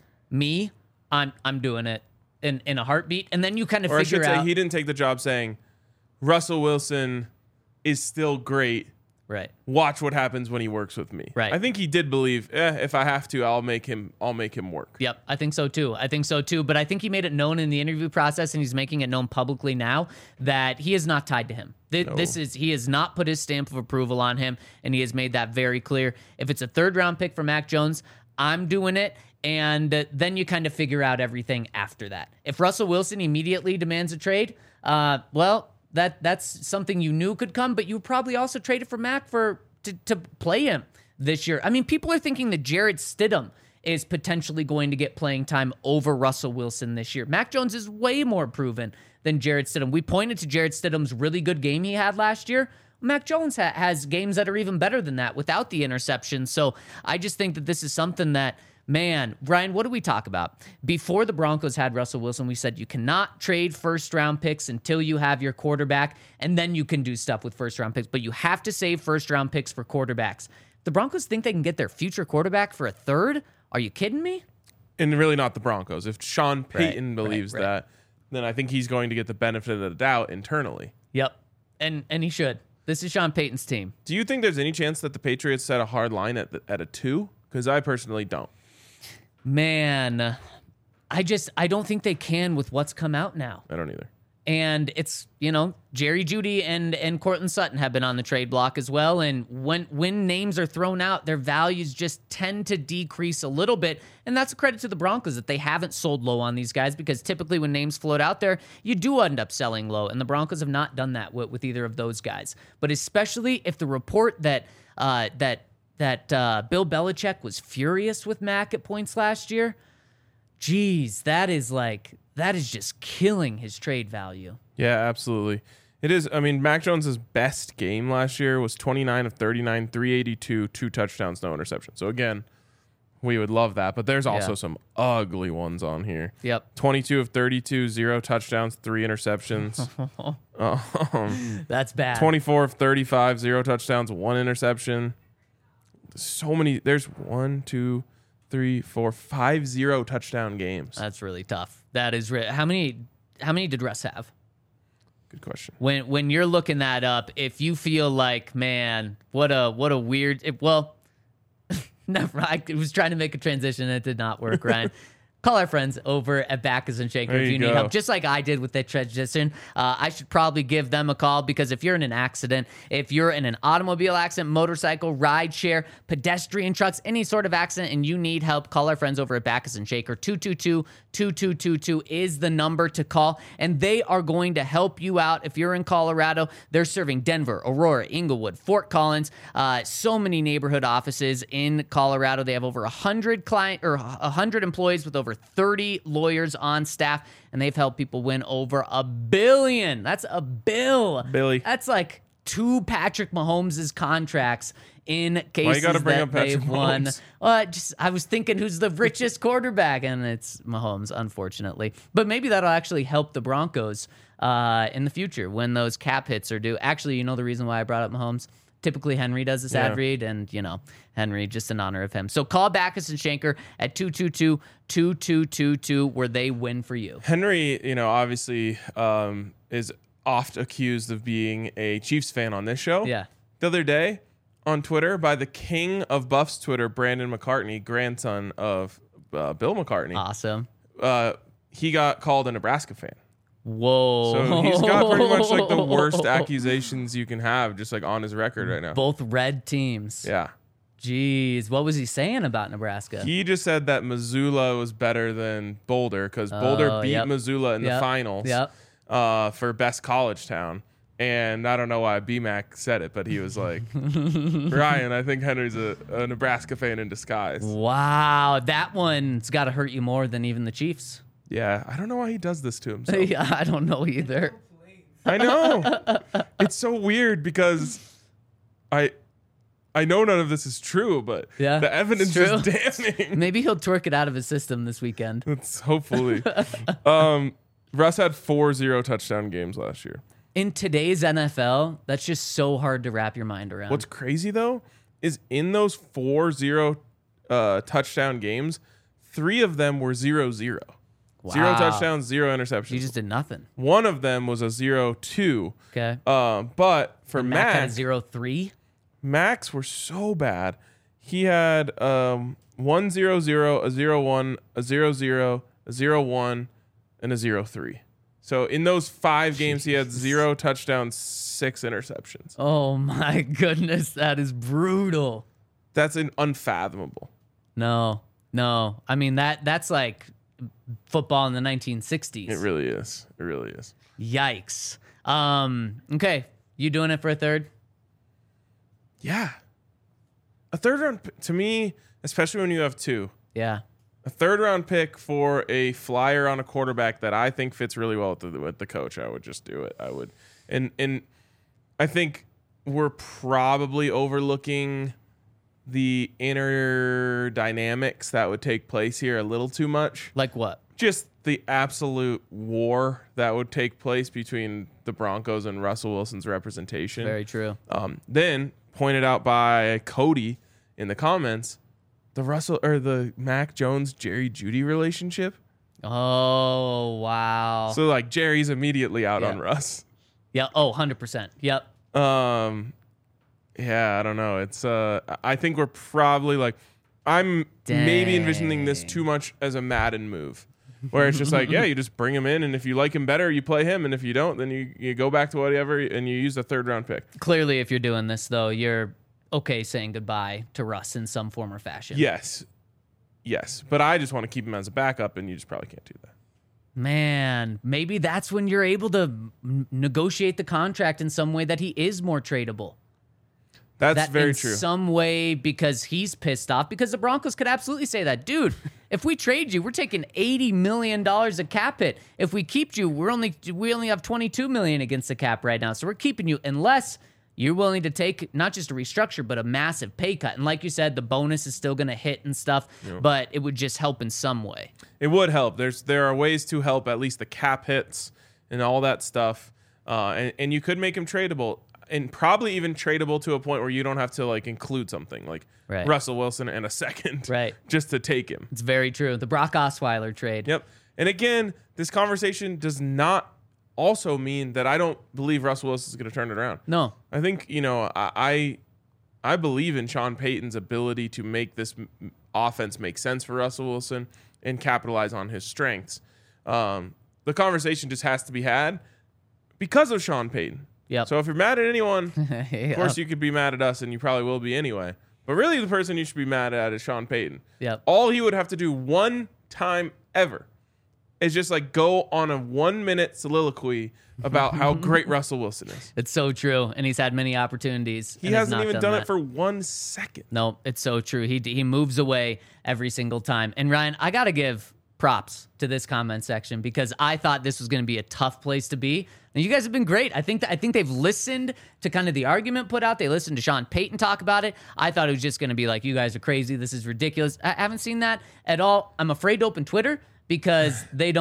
I'm doing it in a heartbeat. And then you kind of Or figure I should say, out. he didn't take the job saying, Russell Wilson is still great. Right. Watch what happens when he works with me. Right. I think he did believe, if I have to, I'll make him work. Yep, I think so too. But I think he made it known in the interview process, and he's making it known publicly now that he is not tied to him. He has not put his stamp of approval on him, and he has made that very clear. If it's a 3rd round pick for Mac Jones, I'm doing it. And then you kind of figure out everything after that. If Russell Wilson immediately demands a trade, that's something you knew could come, but you probably also traded for Mac to play him this year. I mean, people are thinking that Jarrett Stidham is potentially going to get playing time over Russell Wilson this year. Mac Jones is way more proven than Jarrett Stidham. We pointed to Jarrett Stidham's really good game he had last year. Mac Jones has games that are even better than that without the interception. So I just think that this is something that, man, Brian, what do we talk about? Before the Broncos had Russell Wilson, we said you cannot trade 1st-round picks until you have your quarterback, and then you can do stuff with 1st-round picks, but you have to save 1st-round picks for quarterbacks. The Broncos think they can get their future quarterback for a 3rd? Are you kidding me? And really not the Broncos. If Sean Payton believes right. that, then I think he's going to get the benefit of the doubt internally. Yep, and he should. This is Sean Payton's team. Do you think there's any chance that the Patriots set a hard line at a 2? Because I personally don't. Man, I don't think they can with what's come out now. I don't either. And it's, Jerry Jeudy and Cortland Sutton have been on the trade block as well. And when names are thrown out, their values just tend to decrease a little bit. And that's a credit to the Broncos that they haven't sold low on these guys, because typically when names float out there, you do end up selling low. And the Broncos have not done that with either of those guys. But especially if the report that Bill Belichick was furious with Mac at points last year, geez, that is just killing his trade value. Yeah, absolutely. It is. I mean, Mac Jones' best game last year was 29 of 39, 382, 2 touchdowns, no interceptions. So again, we would love that, but there's also some ugly ones on here. Yep. 22 of 32, 0 touchdowns, 3 interceptions. That's bad. 24 of 35, 0 touchdowns, 1 interception. So many. There's 1, 2, 3, 4, 5 0 touchdown games. That's really tough. That is how many did Russ have? Good question. When you're looking that up, if you feel like, man, what a weird. Never. I was trying to make a transition and it did not work, Ryan. Call our friends over at Backus and Shaker if you need help, just like I did with that transition. I should probably give them a call, because if you're in an accident, if you're in an automobile accident, motorcycle, ride share, pedestrian trucks, any sort of accident, and you need help, call our friends over at Backus and Shaker. 222-2222 is the number to call, and they are going to help you out. If you're in Colorado, they're serving Denver, Aurora, Inglewood, Fort Collins, so many neighborhood offices in Colorado. They have over 100 employees with over 30 lawyers on staff, and they've helped people win over $1 billion. That's a bill. Billy. That's like 2 Patrick Mahomes' contracts in cases Why you gotta bring that up Patrick they've won. Mahomes? I was thinking who's the richest quarterback, and it's Mahomes, unfortunately. But maybe that'll actually help the Broncos in the future when those cap hits are due. Actually, you know the reason why I brought up Mahomes? Typically, Henry does this ad read, and, Henry, just in honor of him. So call Backus and Shanker at 222-2222 where they win for you. Henry, obviously is oft accused of being a Chiefs fan on this show. Yeah. The other day on Twitter, by the king of Buffs Twitter, Brandon McCartney, grandson of Bill McCartney. Awesome. He got called a Nebraska fan. Whoa. So he's got pretty much like the worst accusations you can have just like on his record right now. Both red teams. Yeah. Jeez. What was he saying about Nebraska? He just said that Missoula was better than Boulder because Boulder beat Missoula in the finals for best college town. And I don't know why BMAC said it, but he was like, Ryan, I think Henry's a Nebraska fan in disguise. Wow. That one's got to hurt you more than even the Chiefs. Yeah, I don't know why he does this to himself. Yeah, I don't know either. I know. It's so weird because I know none of this is true, but the evidence is damning. Maybe he'll twerk it out of his system this weekend. It's hopefully. Russ had 4 0-touchdown games last year. In today's NFL, that's just so hard to wrap your mind around. What's crazy, though, is in those 4 0-touchdown games, 3 of them were 0-0. Wow. 0 touchdowns, 0 interceptions. He just did nothing. One of them was a 0-2. Okay. But for Mac Mac, had 0-3. Macs were so bad. He had 1-0-0, a 0-1, a 0-0, a 0-1, and a 0-3. So in those 5 games, he had 0 touchdowns, 6 interceptions. Oh my goodness, that is brutal. That's unfathomable. No. I mean that's like football in the 1960s. It really is. Yikes. Okay, you doing it for a third? Yeah. A third round, to me, especially when you have 2. Yeah. A third round pick for a flyer on a quarterback that I think fits really well with the coach. I would just do it. I would. And I think we're probably overlooking the inner dynamics that would take place here a little too much. Like what? Just the absolute war that would take place between the Broncos and Russell Wilson's representation. Very true. Then pointed out by Cody in the comments, the Mac Jones Jerry Jeudy relationship. Oh wow. So like Jerry's immediately out on Russ. Yeah. Oh, 100%. Yep. Yeah, I don't know. It's I think we're probably like I'm maybe envisioning this too much as a Madden move. Where it's just like, you just bring him in, and if you like him better, you play him, and if you don't, then you go back to whatever, and you use a third round pick. Clearly, if you're doing this, though, you're okay saying goodbye to Russ in some form or fashion. Yes. But I just want to keep him as a backup, and you just probably can't do that. Man, maybe that's when you're able to negotiate the contract in some way that he is more tradable. That's very true. In some way, because he's pissed off, because the Broncos could absolutely say that, dude, if we trade you, we're taking $80 million of cap hit. If we keep you, we only have $22 million against the cap right now. So we're keeping you unless you're willing to take not just a restructure, but a massive pay cut. And like you said, the bonus is still going to hit and stuff, but it would just help in some way. It would help. There are ways to help at least the cap hits and all that stuff. And you could make him tradable. And probably even tradable to a point where you don't have to like include something like Russell Wilson and a second just to take him. It's very true. The Brock Osweiler trade. Yep. And again, this conversation does not also mean that I don't believe Russell Wilson is going to turn it around. No. I think, I believe in Sean Payton's ability to make this offense make sense for Russell Wilson and capitalize on his strengths. The conversation just has to be had because of Sean Payton. Yep. So if you're mad at anyone, of course you could be mad at us, and you probably will be anyway. But really the person you should be mad at is Sean Payton. Yep. All he would have to do one time ever is just like go on a 1-minute soliloquy about how great Russell Wilson is. It's so true, and he's had many opportunities. He hasn't even done it for 1 second. No, it's so true. He moves away every single time. And Ryan, I got to give props to this comment section because I thought this was going to be a tough place to be. And you guys have been great. I think they've listened to kind of the argument put out. They listened to Sean Payton talk about it. I thought it was just going to be like, you guys are crazy. This is ridiculous. I haven't seen that at all. I'm afraid to open Twitter because they don't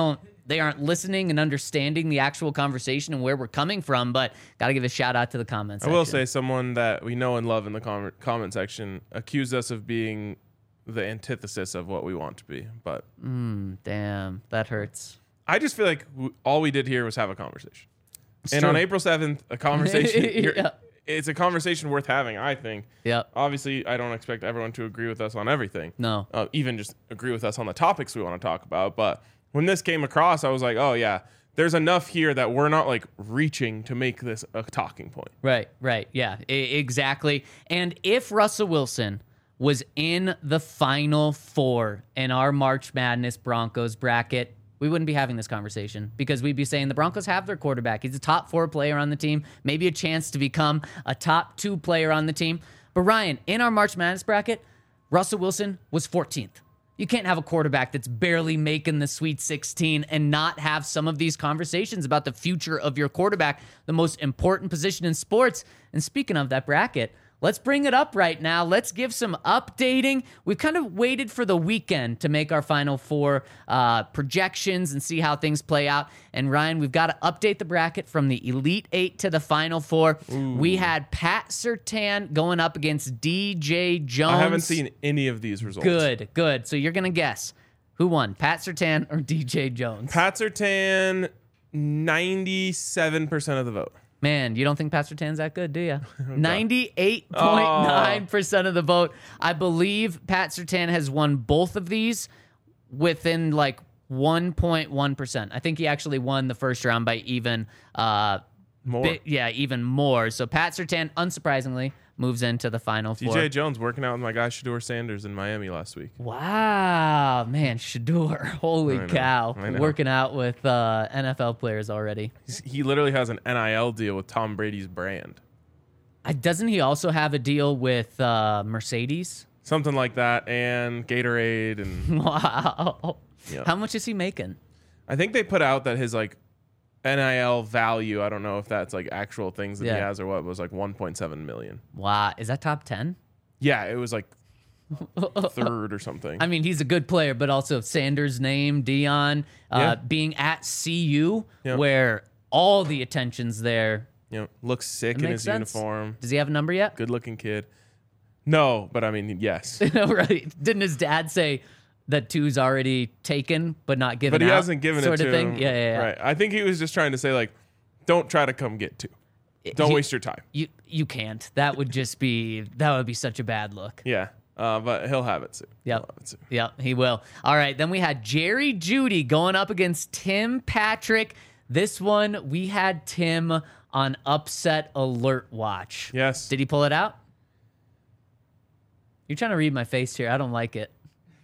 they aren't listening and understanding the actual conversation and where we're coming from. But got to give a shout out to the comments. I will say someone that we know and love in the comment section accused us of being the antithesis of what we want to be. But Damn, that hurts. I just feel like all we did here was have a conversation. And true. on April 7th, a conversation, Yeah. it's a conversation worth having, I think. Yeah. Obviously, I don't expect everyone to agree with us on everything. No. Even just agree with us on the topics we want to talk about. But when this came across, I was like, oh, yeah, there's enough here that we're not like reaching to make this a talking point. Right. Yeah, exactly. And if Russell Wilson was in the Final Four in our March Madness Broncos bracket, we wouldn't be having this conversation because we'd be saying the Broncos have their quarterback. He's a top 4 player on the team, maybe a chance to become a top 2 player on the team. But Ryan, in our March Madness bracket, Russell Wilson was 14th. You can't have a quarterback that's barely making the Sweet 16 and not have some of these conversations about the future of your quarterback, the most important position in sports. And speaking of that bracket, let's bring it up right now. Let's give some updating. We've kind of waited for the weekend to make our Final Four projections and see how things play out. And Ryan, we've got to update the bracket from the Elite 8 to the Final Four. Ooh. We had Pat Surtain going up against DJ Jones. I haven't seen any of these results. Good. So you're going to guess who won, Pat Surtain or DJ Jones? Pat Surtain, 97% of the vote. Man, you don't think Pat Surtain's that good, do you? 98.9% of the vote. I believe Pat Surtain has won both of these within like 1.1%. I think he actually won the first round by even more. Even more. So Pat Surtain, unsurprisingly, moves into the Final Four. DJ Jones working out with my guy Shedeur Sanders in Miami last week. Wow, man, Shedeur. Holy cow. I know. Working out with NFL players already. He literally has an NIL deal with Tom Brady's brand. Doesn't he also have a deal with Mercedes? Something like that, and Gatorade. And wow. Yeah. How much is he making? I think they put out that his like NIL value, I don't know if that's like actual things that he has or what, was like 1.7 million. Wow. Is that top 10? Yeah, it was like third or something. I mean, he's a good player, but also Sanders' name, Dion, being at CU, where all the attention's there. Looks sick in his uniform. Does he have a number yet? Good looking kid. No, but I mean, yes. Right. Didn't his dad say that 2's already taken, but not given out? But he hasn't given it to him. Yeah. Right. I think he was just trying to say, like, don't try to come get 2. Don't waste your time. You can't. That would be such a bad look. Yeah. But he'll have it soon. Yep, he will. All right, then we had Jerry Jeudy going up against Tim Patrick. This one, we had Tim on upset alert watch. Yes. Did he pull it out? You're trying to read my face here. I don't like it.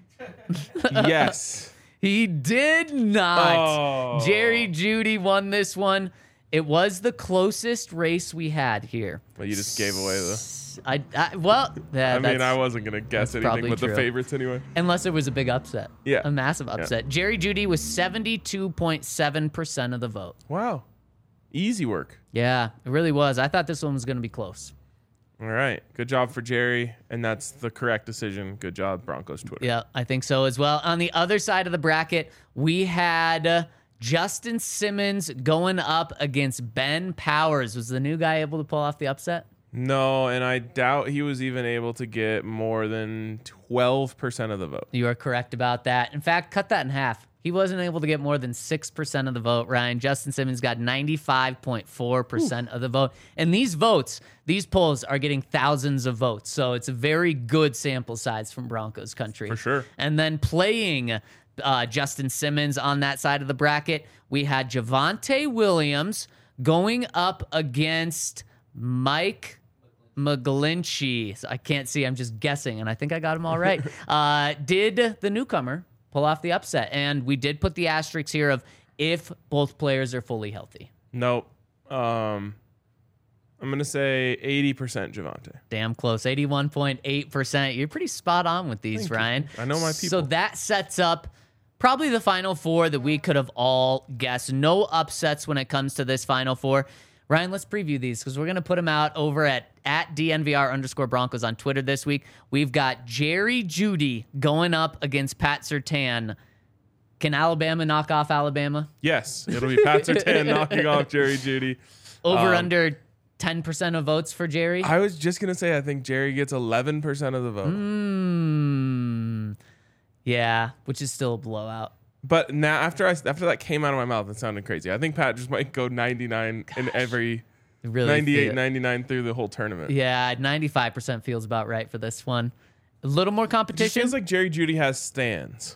Yes. He did not. Oh. Jerry Jeudy won this one. It was the closest race we had here. Well, you just gave away the... I wasn't going to guess anything but the favorites anyway. Unless it was a big upset. Yeah. A massive upset. Yeah. Jerry Jeudy was 72.7% of the vote. Wow. Easy work. Yeah, it really was. I thought this one was going to be close. All right. Good job for Jerry. And that's the correct decision. Good job, Broncos Twitter. Yeah, I think so as well. On the other side of the bracket, we had Justin Simmons going up against Ben Powers. Was the new guy able to pull off the upset? No, and I doubt he was even able to get more than 12% of the vote. You are correct about that. In fact, cut that in half. He wasn't able to get more than 6% of the vote, Ryan. Justin Simmons got 95.4% of the vote. And these votes, these polls are getting thousands of votes. So it's a very good sample size from Broncos country. For sure. And then playing Justin Simmons on that side of the bracket, we had Javonte Williams going up against Mike McGlinchey. So I can't see. I'm just guessing, and I think I got them all right. Did the newcomer pull off the upset? And we did put the asterisk here of if both players are fully healthy. Nope. I'm going to say 80% Javonte. Damn close. 81.8%. You're pretty spot on with these, Thank Ryan. You. I know my people. So that sets up probably the Final Four that we could have all guessed. No upsets when it comes to this Final Four. Ryan, let's preview these because we're going to put them out over at DNVR_Broncos on Twitter this week. We've got Jerry Jeudy going up against Pat Surtain. Can Alabama knock off Alabama? Yes, it'll be Pat Surtain knocking off Jerry Jeudy. Over under 10% of votes for Jerry? I was just gonna say I think Jerry gets 11% of the vote. Yeah, which is still a blowout. But now after that came out of my mouth, it sounded crazy. I think Pat just might go 99 in every Really 98, 99 through the whole tournament. Yeah, 95% feels about right for this one. A little more It just competition feels like Jerry Jeudy has stands.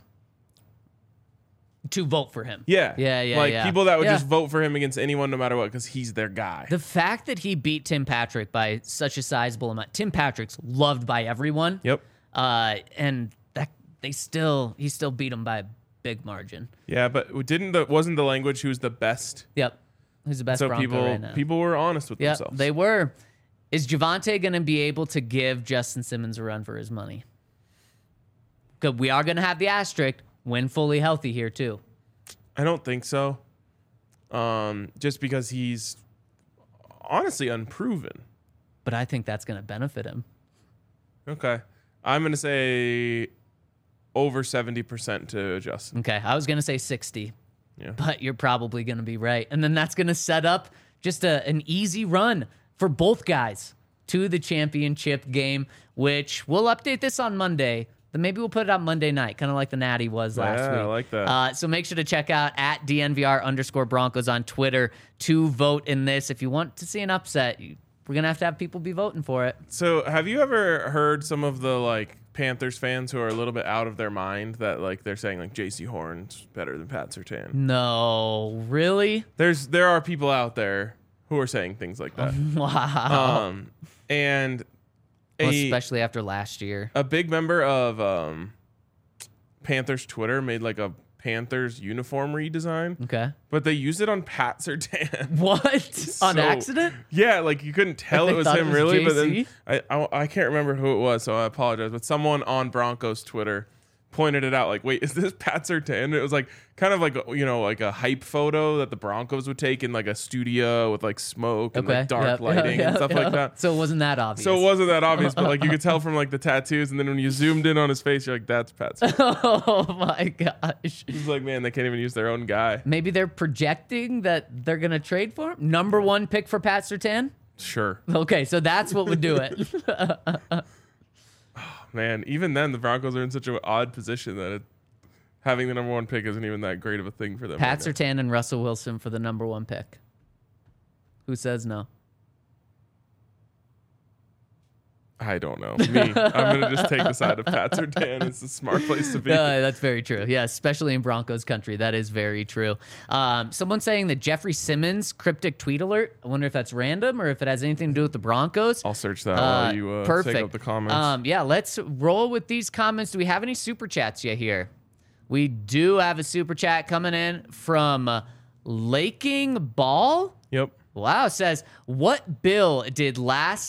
to vote for him. Yeah. Yeah, Like yeah. people that would Yeah. just vote for him against anyone no matter what because he's their guy. The fact that he beat Tim Patrick by such a sizable amount. Tim Patrick's loved by everyone. Yep. And that he still beat him by a big margin. Yeah, but wasn't the language who was the best? Yep. Who's the best So Bronco right now? people were honest with Yep, themselves. they were. Is Javonte going to be able to give Justin Simmons a run for his money? Because we are going to have the asterisk when fully healthy here too. I don't think so. Just because he's honestly unproven. But I think that's going to benefit him. Okay. I'm going to say over 70% to Justin. Okay, I was going to say 60. Yeah. But you're probably going to be right. And then that's going to set up just an easy run for both guys to the championship game, which we'll update this on Monday. Then maybe we'll put it out Monday night, kind of like the Natty was last week. Yeah, I like that. So make sure to check out at @DNVR_Broncos on Twitter to vote in this. If you want to see an upset, we're going to have people be voting for it. So have you ever heard some of the Panthers fans who are a little bit out of their mind that they're saying J.C. Horn's better than Pat Surtain? No, really? There are people out there who are saying things like that. Wow. And Well, especially after last year. a big member of Panthers Twitter made a Panthers uniform redesign, Okay. but they used it on Pat Surtain. What? On So- accident? Yeah, you couldn't tell They it was thought it him was really, but then JC? I can't remember who it was, so I apologize. But someone on Broncos Twitter pointed it out. Wait, is this Pat Surtain? It was kind of a hype photo that the Broncos would take in a studio with smoke and Okay. dark Yep. lighting Yeah, and stuff yeah. like that. So it wasn't that obvious. So it wasn't that obvious, but you could tell from the tattoos, and then when you zoomed in on his face, you're like, "That's Pat Surtain." Oh my gosh. He's like, man, they can't even use their own guy. Maybe they're projecting that they're going to trade for him? Number one pick for Pat Surtain? Sure, Okay, so that's what would do it. man. Even then, the Broncos are in such an odd position that having the number one pick isn't even that great of a thing for them. Pat right now. Surtain and Russell Wilson for the number one pick. Who says no? I don't know. Me, I'm gonna just take the side of Pat Surtain. It's a smart place to be. That's very true. Yeah, especially in Broncos country. That is very true. Someone saying that Jeffrey Simmons cryptic tweet alert. I wonder if that's random or if it has anything to do with the Broncos. I'll search that while you Perfect. take up the comments. Yeah, let's roll with these comments. Do we have any super chats yet here? We do have a super chat coming in from Laking Ball. Yep. Wow, says what bill did last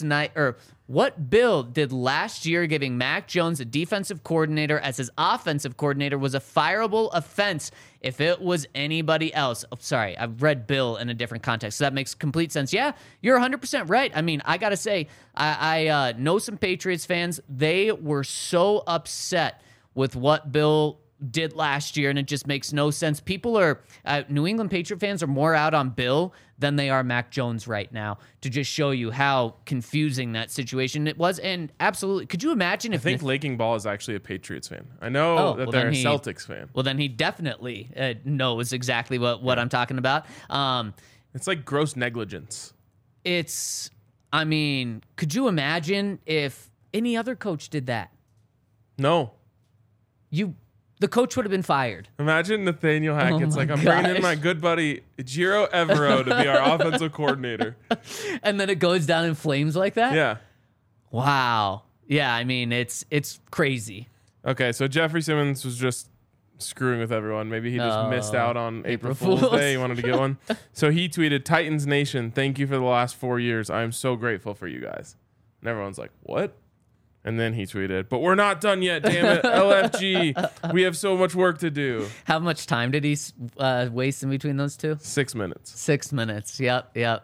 year giving Mac Jones a defensive coordinator as his offensive coordinator was a fireable offense if it was anybody else? Oh, sorry, I've read bill in a different context, so that makes complete sense. Yeah, you're 100% right. I mean, I gotta say, I know some Patriots fans. They were so upset with what Bill did last year, and it just makes no sense. People are New England Patriot fans are more out on Bill than they are Mac Jones right now, to just show you how confusing that situation it was. And absolutely, could you imagine if I think Laking Ball is actually a Patriots fan. I know that they're a Celtics fan. Well, then he definitely knows exactly what I'm talking about. It's like gross negligence. I mean, could you imagine if any other coach did that? No. The coach would have been fired. Imagine Nathaniel Hackett's my I'm bringing in gosh. my good buddy Jiro Evero to be our offensive coordinator. And then it goes down in flames like that? Yeah. Wow. Yeah, I mean, it's crazy. Okay, so Jeffrey Simmons was just screwing with everyone. Maybe he just missed out on April Fool's Fools. Day. He wanted to get one. So he tweeted, Titans Nation, thank you for the last 4 years. I am so grateful for you guys. And everyone's like, what? And then he tweeted, but we're not done yet, damn it. LFG, we have so much work to do. How much time did he waste in between those two? 6 minutes. 6 minutes. Yep. Yeah.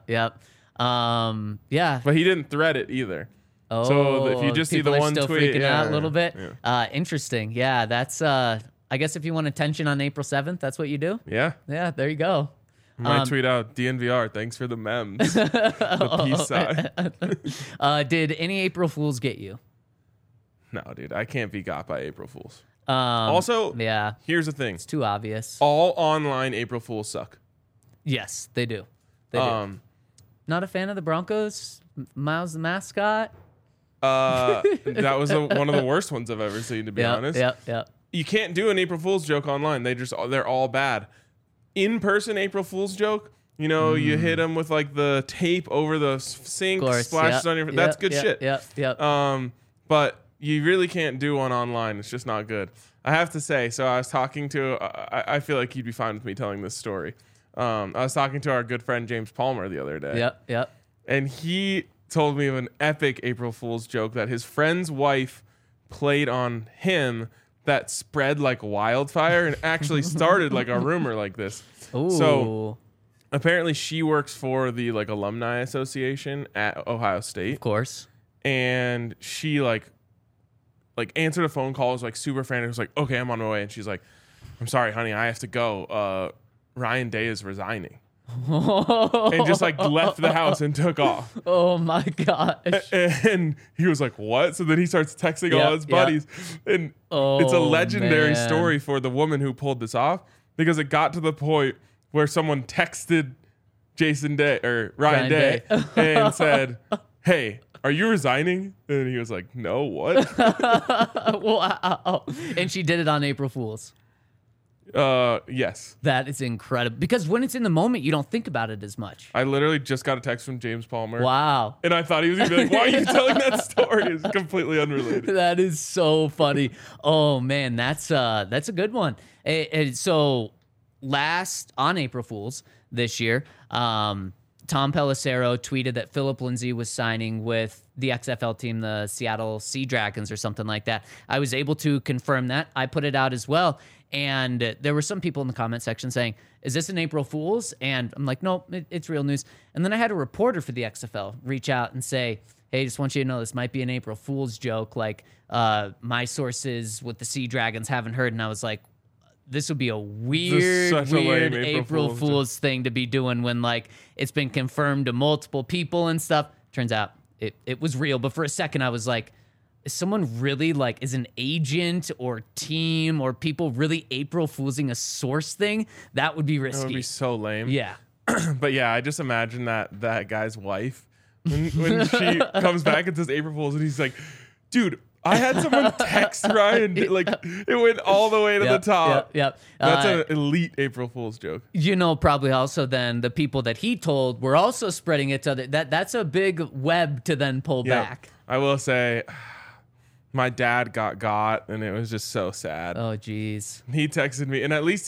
But he didn't thread it either. Oh, So if you just see people the are one still tweet, freaking yeah, out a little bit. yeah. Interesting. Yeah, that's. I I guess if you want attention on April 7th, that's what you do. Yeah. Yeah, there you go. I might tweet out DNVR. Thanks for the memes. The peace sign. Did any April Fools get you? No, dude, I can't be got by April Fools. Also, here's the thing. It's too obvious. All online April Fools suck. Yes, they do. They do. Not a fan of the Broncos? Miles the mascot? That was one of the worst ones I've ever seen, to be honest. Yep. You can't do an April Fool's joke online. They're all bad. In-person April Fool's joke, you hit them with like the tape over the sink, splashes on your. That's good shit. Yep. But you really can't do one online. It's just not good. I have to say. So I was talking to. I feel like you'd be fine with me telling this story. I was talking to our good friend James Palmer the other day. Yep. And he told me of an epic April Fool's joke that his friend's wife played on him that spread like wildfire and actually started like a rumor like this. Ooh. So apparently she works for the like alumni association at Ohio State. Of course. And she like answered a phone call, was like super frantic, was like, okay, I'm on my way. And she's like, I'm sorry, honey, I have to go. Ryan Day is resigning. And just like left the house and took off. Oh my gosh. And he was like, what? So then he starts texting all his buddies. And it's a legendary story for the woman who pulled this off, because it got to the point where someone texted Jason Day or Ryan Day and said, hey, are you resigning? And he was like, no, what? Wow. And she did it on April Fool's. Yes. That is incredible, because when it's in the moment, you don't think about it as much. I literally just got a text from James Palmer. Wow. And I thought he was gonna be like, why are you telling that story? It's completely unrelated. That is so funny. Oh man, that's a good one. So last on April Fool's this year, Tom Pelissero tweeted that Philip Lindsay was signing with the XFL team, the Seattle Sea Dragons or something like that. I was able to confirm that. I put it out as well. And there were some people in the comment section saying, is this an April Fool's? And I'm like, no, it's real news. And then I had a reporter for the XFL reach out and say, hey, just want you to know this might be an April Fool's joke. Like, my sources with the Sea Dragons haven't heard. And I was like, this would be a weird April Fool's thing to be doing when like it's been confirmed to multiple people and stuff. Turns out it was real. But for a second, I was like, is someone really like, is an agent or team or people really April Foolsing a source thing? That would be risky. That would be so lame. Yeah. But yeah, I just imagine that guy's wife when she comes back and says April Fool's, and he's like, dude, I had someone text Ryan, like it went all the way to the top. Yep. That's an elite April Fool's joke. Probably also then the people that he told were also spreading it to other. That's a big web to then pull back. I will say, my dad got, and it was just so sad. Oh, geez. He texted me, and at least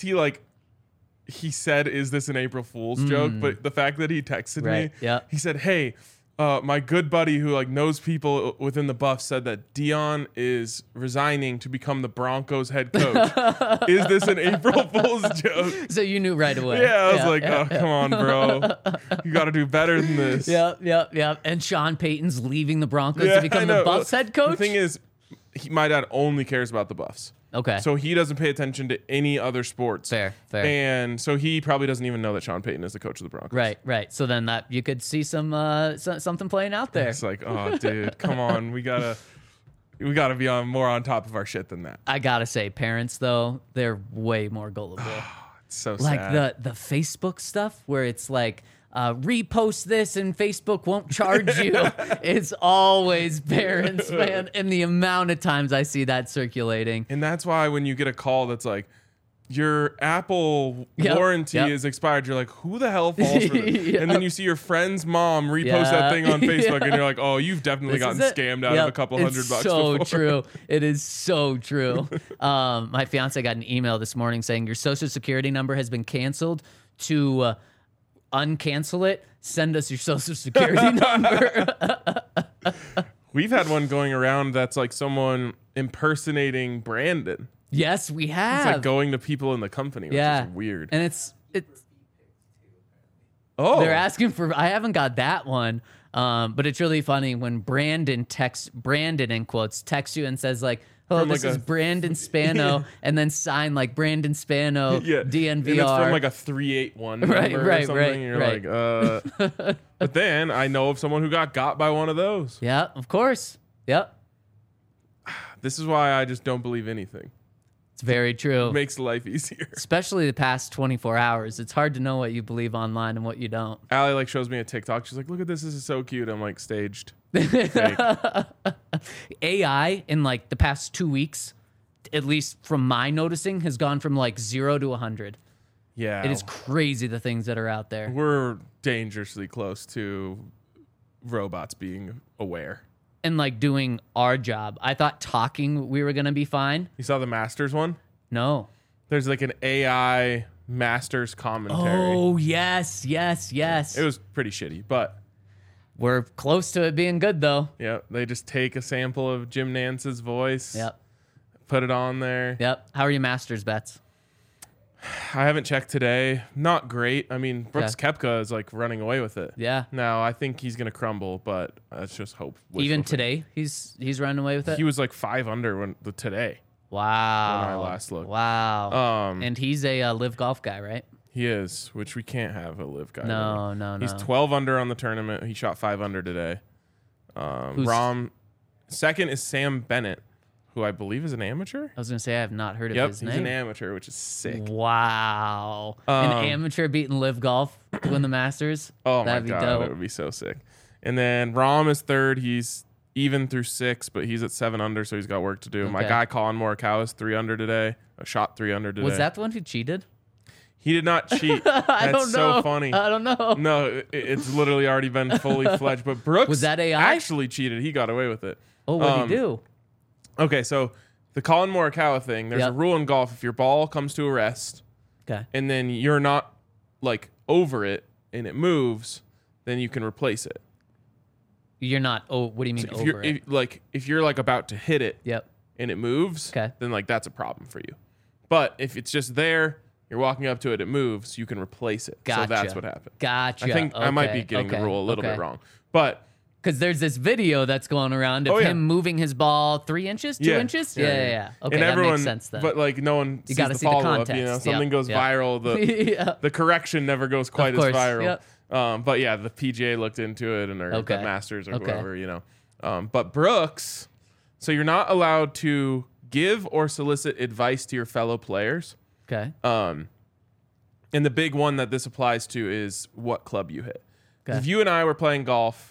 he said, is this an April Fool's joke? But the fact that he texted me, he said, hey, my good buddy who like knows people within the Buffs said that Dion is resigning to become the Broncos head coach. Is this an April Fool's joke? So you knew right away. Yeah, I was like, come on, bro. You got to do better than this. Yep. And Sean Payton's leaving the Broncos to become the Buffs head coach? The thing is, my dad only cares about the Buffs. Okay. So he doesn't pay attention to any other sports. Fair. And so he probably doesn't even know that Sean Payton is the coach of the Broncos. Right. So then that you could see some something playing out there. It's like, oh, dude, come on. We gotta be more on top of our shit than that. I gotta say, parents though, they're way more gullible. It's so like sad. the Facebook stuff where it's like, repost this and Facebook won't charge you. It's always parents, man. And the amount of times I see that circulating. And that's why when you get a call that's like, your Apple warranty is expired, you're like, who the hell falls for this? And then you see your friend's mom repost that thing on Facebook, and you're like, oh, you've definitely gotten scammed out of a couple $100 bucks so before. True. It is so true. My fiance got an email this morning saying your social security number has been canceled. To uncancel it, send us your social security number. We've had one going around that's like someone impersonating Brandon. Yes, we have. It's like going to people in the company, which is weird. And it's oh, they're asking for, I haven't got that one. But it's really funny when Brandon in quotes texts you and says like, "Oh, From this like is Brandon Spano," and then sign like Brandon Spano DNVR. And it's from like a 381 number Right, or right, something. right, You're right. like, But then I know of someone who got by one of those. Yeah, of course. Yep, This is why I just don't believe anything. it's very true. It makes life easier. Especially the past 24 hours. It's hard to know what you believe online and what you don't. Allie like shows me a TikTok. She's like, "Look at this. This is so cute." I'm like, staged. Fake. AI in like the past 2 weeks, at least from my noticing, has gone from like 0 to 100. Yeah. It is crazy the things that are out there. We're dangerously close to robots being aware. And like doing our job. I thought talking we were going to be fine. You saw the Masters one? No. There's like an AI Masters commentary. Oh, yes, yes, yes. It was pretty shitty, but We're close to it being good though. yeah, they just take a sample of Jim Nance's voice, Yep. put it on there. Yep. How are your Masters bets? I haven't checked today. Not great. I mean, Brooks Koepka is like running away with it. Yeah. Now, I think he's going to crumble, but let's just hope. Even wishful today, he's running away with it. thinking. He was like 5 under today. Wow. When I last looked. Wow. And he's a live golf guy, right? He is, which we can't have a live guy. No, really. no, He's no. 12 under on the tournament. He shot 5 under today. Who's- Second is Sam Bennett, who I believe is an amateur. I was gonna say I have not heard of Yep, his he's name. an amateur, which is sick. Wow. An amateur beating live golf to win the Masters. Oh That'd my be god, dope. that would be so sick. And then Rahm is third. He's even through 6, but he's at 7 under, so he's got work to do. My Okay. guy Colin Morikawa is 3 under today. A shot 3 under today. Was that the one who cheated? He did not cheat. I That's don't know. so funny. I don't know. No, it's literally already been fully fledged. But Brooks Was that AI? actually cheated. He got away with it. Oh, what did he do? Okay, so the Colin Morikawa thing, there's a Yep. rule in golf. If your ball comes to a rest Okay. and then you're not like over it and it moves, then you can replace it. You're not. Oh, what do you mean If you're over it? if you're like about to hit it Yep. and it moves, Okay. then like that's a problem for you. But if it's just there, you're walking up to it, it moves, you can replace it. Gotcha. So that's what happened. Gotcha. I think I might be Okay, getting the okay, rule a little okay. bit wrong. But Because there's this video that's going around of Oh, yeah. him moving his ball 3 inches, 2 yeah, inches. Yeah. Okay, and that everyone, makes sense then. But like no one sees gotta the see the follow up. context. You know, Yep, something goes yep. viral. The yeah. the correction never goes quite Of as course, viral. yep. But yeah, the PGA looked into it and or Okay. the Masters or Okay. whoever, you know. But Brooks, so you're not allowed to give or solicit advice to your fellow players. Okay. And the big one that this applies to is what club you hit. 'Cause Okay. if you and I were playing golf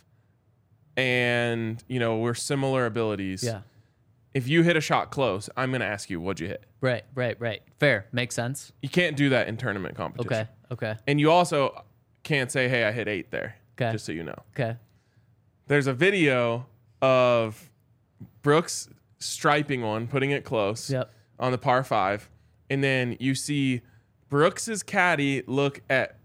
and, you know, we're similar abilities, Yeah. if you hit a shot close, I'm going to ask you, what'd you hit? Right. Fair. Makes sense. You can't do that in tournament competition. Okay. And you also can't say, hey, I hit 8 there. Okay. Just so you know. Okay. There's a video of Brooks striping one, putting it close Yep. on the par 5. And then you see Brooks's caddy look at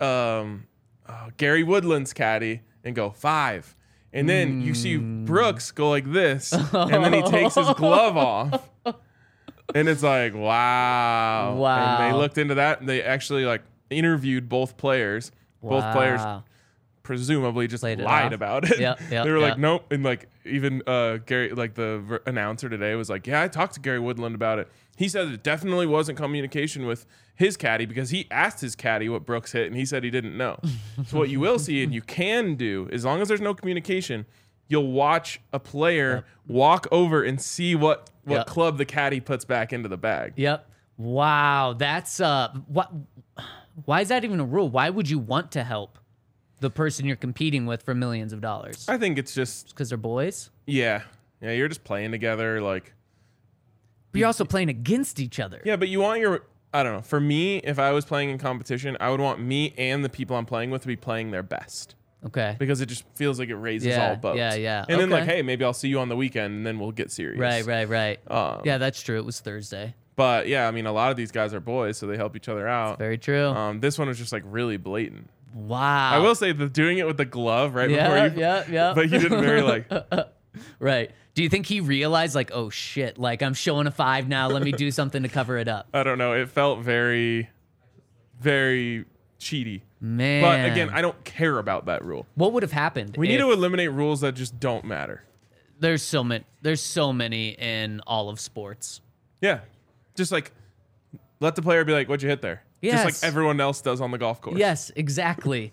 Gary Woodland's caddy and go 5. And then you see Brooks go like this, and then he takes his glove off. And it's like, wow. Wow. And they looked into that, and they actually like interviewed both players. Both players Wow. presumably just Played it lied off. about it. Yep, yep, They were like, yep. nope. And like even Gary, like the announcer today was like, yeah, I talked to Gary Woodland about it. He said it definitely wasn't communication with his caddy because he asked his caddy what Brooks hit and he said he didn't know. So what you will see and you can do, as long as there's no communication, you'll watch a player walk over and see what Yep. club the caddy puts back into the bag. Yep. Wow. That's what? Why is that even a rule? Why would you want to help the person you're competing with for millions of dollars? I think it's just, Because they're boys. yeah, you're just playing together. Like, But you're also playing against each other. yeah, but you want your, I don't know. For me, if I was playing in competition, I would want me and the people I'm playing with to be playing their best Okay. because it just feels like it raises Yeah, all boats. yeah. And then Okay. like, hey, maybe I'll see you on the weekend and then we'll get serious. Right. Um, Yeah, that's true. It was Thursday. But yeah, I mean, a lot of these guys are boys, so they help each other out. Very true. This one was just like really blatant. Wow. I will say that doing it with the glove right before Yeah, you, yeah. but he didn't very like. Right. Do you think he realized, like, oh shit, like I'm showing a 5 now. Let me do something to cover it up. I don't know. It felt very, very cheaty. Man. But again, I don't care about that rule. What would have happened? We need to eliminate rules that just don't matter. There's so many in all of sports. Yeah. Just like let the player be like, what'd you hit there? Yes. Just like everyone else does on the golf course. Yes, exactly.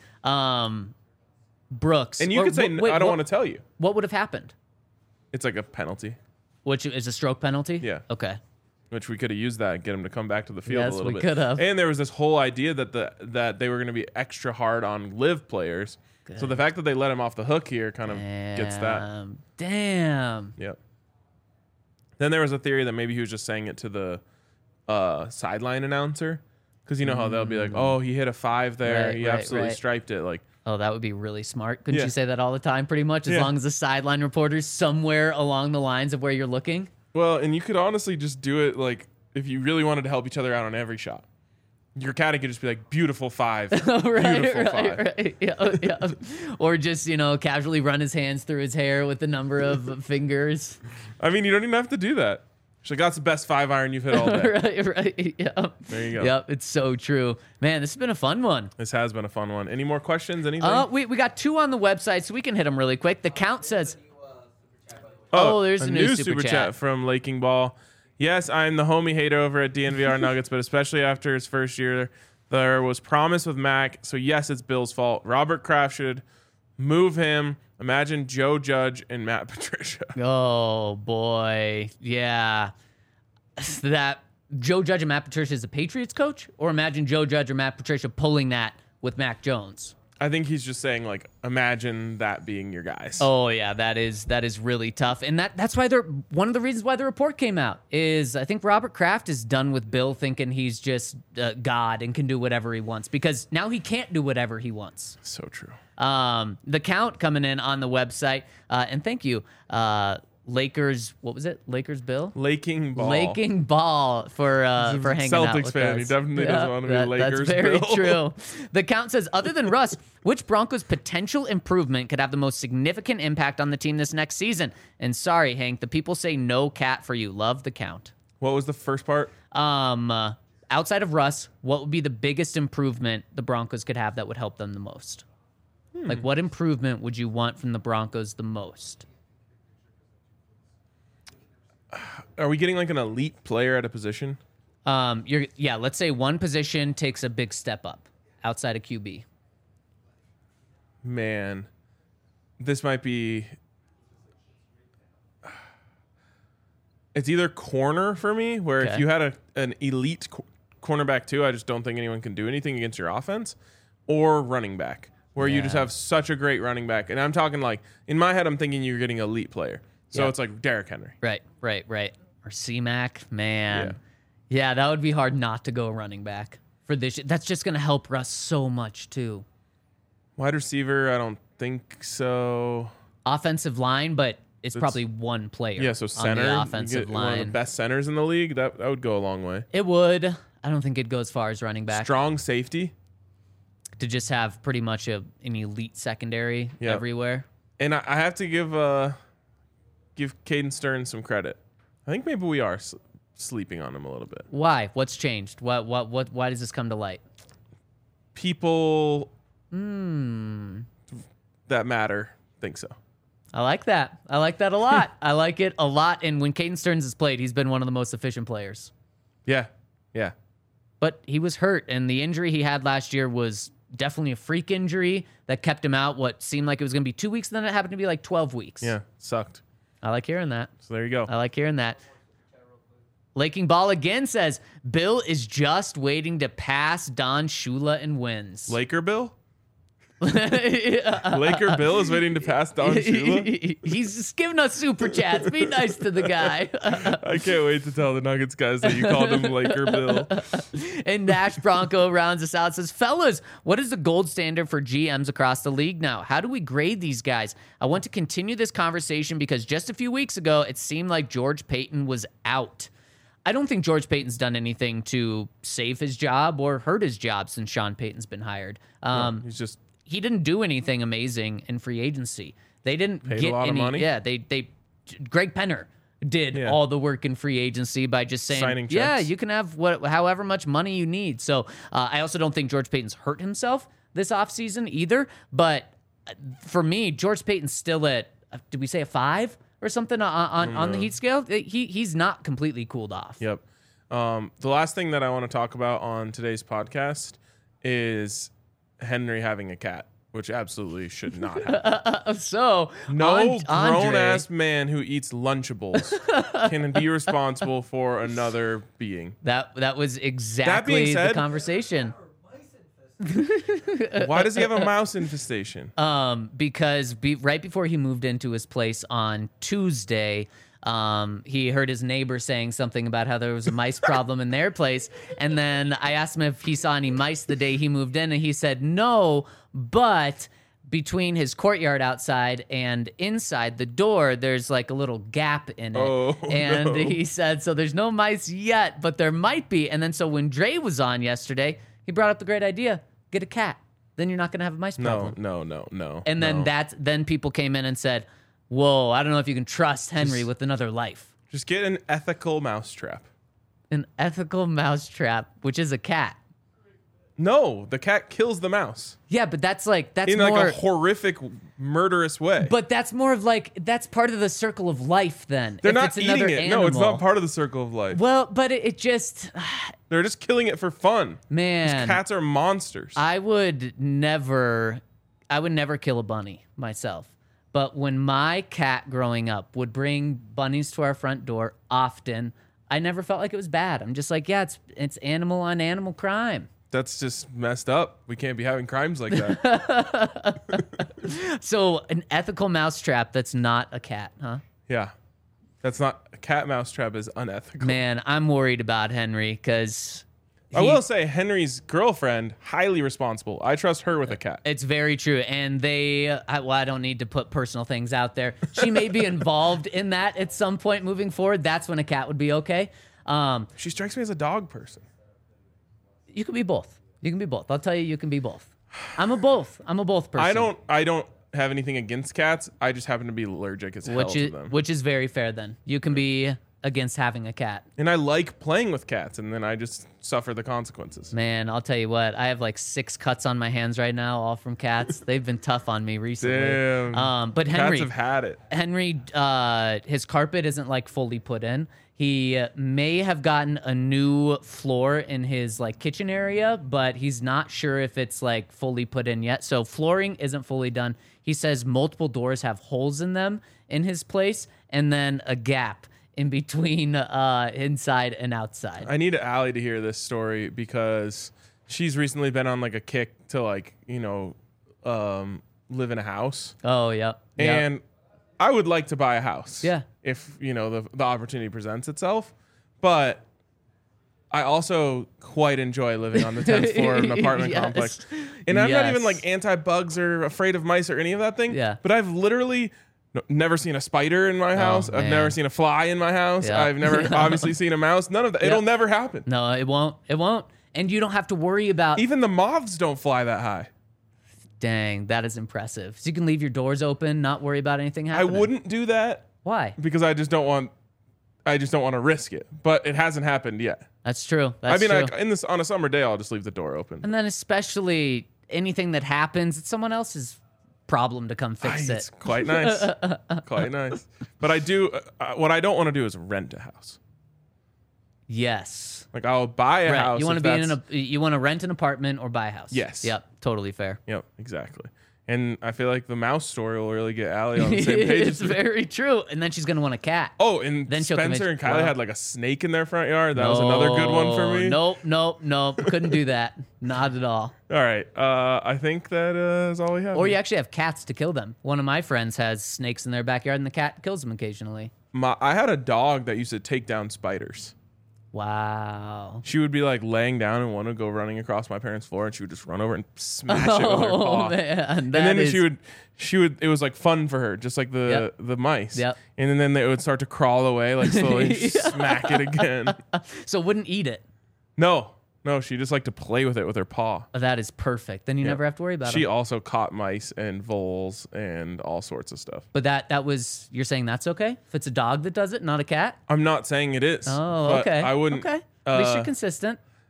Brooks. And you could say, I don't want to tell you. What would have happened? It's like a penalty. Which is a stroke penalty? Yeah. Okay. Which we could have used that and get him to come back to the field Yes, a little we bit. could have. And there was this whole idea that they were going to be extra hard on live players. Good. So the fact that they let him off the hook here kind of gets that. Damn. Yep. Then there was a theory that maybe he was just saying it to the sideline announcer. Because you know how they'll be like, oh, he hit a 5 there. Right, he right, absolutely right. striped it. Like, Oh, that would be really smart. Couldn't Yeah. you say that all the time pretty much? As Yeah. long as the sideline reporter's somewhere along the lines of where you're looking? well, and you could honestly just do it like if you really wanted to help each other out on every shot. Your caddy could just be like, beautiful 5. Beautiful 5. Right. Yeah. Or just, casually run his hands through his hair with the number of fingers. I mean, you don't even have to do that. She's like, that's the best 5 iron you've hit all day. Right. Yep. There you go. Yep. It's so true. Man, this has been a fun one. This has been a fun one. Any more questions? Anything? We got 2 on the website, so we can hit them really quick. The count says, there's a new super chat from Laking Ball. Yes, I'm the homie hater over at DNVR Nuggets, but especially after his first year, there was promise with Mac. So yes, it's Bill's fault. Robert Kraft should move him. Imagine Joe Judge and Matt Patricia. oh, boy. Yeah. That Joe Judge and Matt Patricia is the Patriots coach? Or imagine Joe Judge or Matt Patricia pulling that with Mac Jones? I think he's just saying, like, imagine that being your guys. Oh yeah, that is really tough, and that's why one of the reasons why the report came out is I think Robert Kraft is done with Bill thinking he's just God and can do whatever he wants because now he can't do whatever he wants. So true. The count coming in on the website, and thank you, Lakers. What was it? Lakers Bill. Laking Ball. Laking Ball for hanging out Celtics with fan. us. He definitely doesn't want to be Lakers That's very Bill. true. The count says, other than Russ, which Broncos potential improvement could have the most significant impact on the team this next season? And sorry, Hank, the people say no cat for you. Love the count. What was the first part? Outside of Russ, what would be the biggest improvement the Broncos could have that would help them the most? Like, what improvement would you want from the Broncos the most? Are we getting like an elite player at a position? Let's say one position takes a big step up outside of QB. Man, this might be. It's either corner for me, where Okay. if you had an elite cornerback too, I just don't think anyone can do anything against your offense, or running back, where you just Yeah. have such a great running back. And I'm talking like, in my head, I'm thinking you're getting elite player. So Yeah. it's like Derrick Henry. Right. Or C-Mac, man. Yeah, that would be hard not to go running back for this. That's just going to help Russ so much, too. Wide receiver, I don't think so. Offensive line, but it's probably one player Yeah, so center. on the you offensive get one of the line. best centers in the league. That would go a long way. It would. I don't think it'd go as far as running back. Strong safety. To just have pretty much an elite secondary everywhere. And I have to give Caden Stearns some credit. I think maybe we are sleeping on him a little bit. Why? What's changed? Why does this come to light? People that matter think so. I like that. I like that a lot. I like it a lot. And when Caden Stearns has played, he's been one of the most efficient players. Yeah. But he was hurt, and the injury he had last year was definitely a freak injury that kept him out what seemed like it was going to be 2 weeks, and then it happened to be like 12 weeks. Yeah. Sucked. I like hearing that. So there you go. I like hearing that. Laking Ball again says, Bill is just waiting to pass Don Shula and wins. Laker Bill? Laker Bill is waiting to pass Don Shula? He's just giving us super chats. Be nice to the guy. I can't wait to tell the Nuggets guys that you called him Laker Bill. And Nash Bronco rounds us out, says, fellas, what is the gold standard for GMs across the league now? How do we grade these guys? I want to continue this conversation because just a few weeks ago, it seemed like George Paton was out. I don't think George Paton's done anything to save his job or hurt his job since Sean Payton's been hired. He's just He didn't do anything amazing in free agency. They didn't Paid get a lot any. of money? Yeah, they Greg Penner did all the work in free agency by just saying, Signing yeah, checks. you can have however much money you need. So I also don't think George Paton's hurt himself, this offseason either. But for me, George Payton's still at, did we say a 5 or something on the heat scale? He's not completely cooled off. Yep. The last thing that I want to talk about on today's podcast is Henry having a cat, which absolutely should not happen. So No Andre, grown-ass man who eats Lunchables can be responsible for another being. that was exactly said- the conversation. Why does he have a mouse infestation? Because right before he moved into his place on Tuesday, he heard his neighbor saying something about how there was a mice problem in their place. And then I asked him if he saw any mice the day he moved in, and he said no, but between his courtyard outside and inside the door, there's like a little gap in it. Oh, and no. he said, so there's no mice yet, but there might be. And then so when Dre was on yesterday, he brought up the great idea, get a cat. Then you're not going to have a mice problem. No. And then then people came in and said, whoa, I don't know if you can trust Henry with another life. Just get an ethical mousetrap. An ethical mousetrap, which is a cat. No, the cat kills the mouse Yeah, but that's in more, like a horrific, murderous way. but that's more of like, that's part of the circle of life then. They're if not it's another eating it. No, it's animal. not part of the circle of life. Well, but it just, They're just killing it for fun. man. Cats are monsters. I would never kill a bunny myself. But when my cat growing up would bring bunnies to our front door often, I never felt like it was bad. I'm just like, yeah, it's animal on animal crime. That's just messed up. We can't be having crimes like that. So an ethical mousetrap that's not a cat, huh? Yeah. That's not a cat mousetrap is unethical. Man, I'm worried about Henry because I will say Henry's girlfriend, highly responsible. I trust her with a cat. it's very true. And I don't need to put personal things out there. She may be involved in that at some point moving forward. That's when a cat would be okay. She strikes me as a dog person. You can be both. You can be both. I'll tell you can be both. I'm a both person. I don't have anything against cats. I just happen to be allergic as hell to them. Which is very fair then. You can be against having a cat. And I like playing with cats, and then I just suffer the consequences. Man, I'll tell you what. I have like 6 cuts on my hands right now, all from cats. They've been tough on me recently. Damn. But Cats Henry, have had it. his carpet isn't like fully put in. He may have gotten a new floor in his like kitchen area, but he's not sure if it's like fully put in yet. So flooring isn't fully done. He says multiple doors have holes in them in his place, and then a gap in between inside and outside. I need Allie to hear this story because she's recently been on like a kick to like, live in a house. Oh, yep. And I would like to buy a house. Yeah. If, the opportunity presents itself. But I also quite enjoy living on the 10th floor of an apartment Yes. complex. And I'm not even Yes. like anti-bugs or afraid of mice or any of that thing. Yeah. But I've literally never seen a spider in my house. I've man. never seen a fly in my house. Yeah. I've never obviously seen a mouse. None of that. It'll never happen. No, it won't. It won't. And you don't have to worry about. Even the moths don't fly that high. Dang, that is impressive. So you can leave your doors open, not worry about anything I happening. wouldn't do that Why? because I just don't want to risk it. But it hasn't happened yet. That's true. That's I mean, true. on a summer day, I'll just leave the door open. And then especially anything that happens, it's someone else's problem to come fix It's it. quite nice. Quite nice. But I do, what I don't want to do is rent a house. Yes. Like I'll buy a Right. house. You want if to be that's- you want to rent an apartment or buy a house. Yes. Yep. Totally fair. Yep, exactly. And I feel like the mouse story will really get Allie on the same page. It's very true. And then she's gonna want a cat. Oh, and Then she'll Spencer and commit- Kylie wow. had like a snake in their front yard. That was another good one for me. Nope. Couldn't do that. Not at all. All right. I think that is all we have. Or you actually have cats to kill them. One of my friends has snakes in their backyard, and the cat kills them occasionally. I had a dog that used to take down spiders. Wow. She would be like laying down and one would go running across my parents' floor, and she would just run over and smash it with her paw. Oh man, And then she would. It was like fun for her, just like the mice. Yep. And then they would start to crawl away, like slowly and smack it again. So wouldn't eat it. No, she just liked to play with it with her paw. Oh, that is perfect. Then you never have to worry about She it. also caught mice and voles and all sorts of stuff. But that was, you're saying that's okay? If it's a dog that does it, not a cat? I'm not saying it is. Oh, but okay. I wouldn't. Okay. At least you're consistent.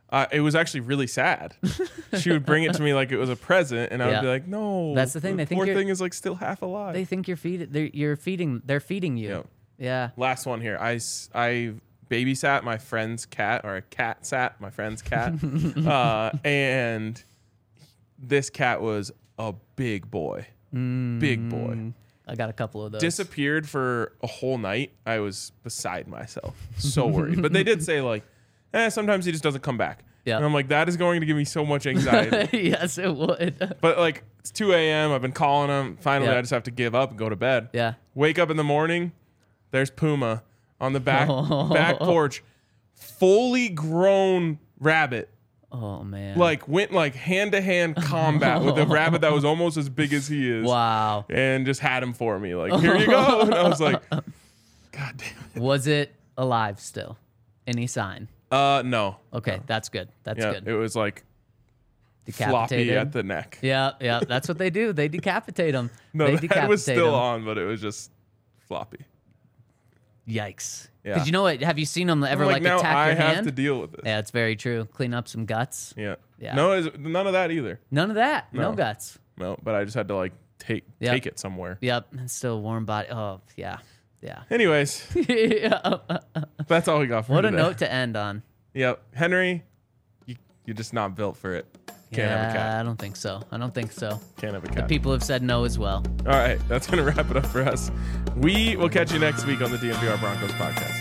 It was actually really sad. She would bring it to me like it was a present, and I would be like, "No." That's the thing. They think poor you're- thing is like still half alive. They think you're feeding. They're feeding you. Yep. Yeah. Last one here. I babysat my friend's cat, or a cat sat my friend's cat, and this cat was a big boy. Big boy. I got a couple of those. Disappeared for a whole night. I was beside myself, so worried. But they did say like, sometimes he just doesn't come back. Yeah. And I'm like, that is going to give me so much anxiety. Yes, it would. But like, it's 2 a.m. I've been calling him. Finally, Yeah. I just have to give up and go to bed. Yeah. Wake up in the morning. There's Puma on the back porch, fully grown rabbit. Oh man. Like went like hand to hand combat with a rabbit that was almost as big as he is. Wow. And just had him for me. Like, here you go. And I was like, God damn it. Was it alive still? Any sign? No. Okay, that's good. That's Yeah, good. it was like floppy Decapitated. at the neck. Yeah. That's what they do. They decapitate them. No, they the head was decapitate still 'em. on, but it was just floppy. Yikes. Yeah. Because you know what? Have you seen them ever I'm like now attack I your have hand? to deal with this. Yeah, it's very true. Clean up some guts. Yeah. Yeah. No, none of that either. None of that. No, No. guts. No, but I just had to like take it somewhere. Yep. And still warm body. Oh, yeah. Yeah. Anyways, Yeah. that's all we got for What a today. note to end on. Yep. Henry, you're just not built for it. Can't have a I cat. don't think so. I don't think so. Can't have a cat. People have said no as well. All right, that's going to wrap it up for us. We will catch you next week on the DNVR Broncos podcast.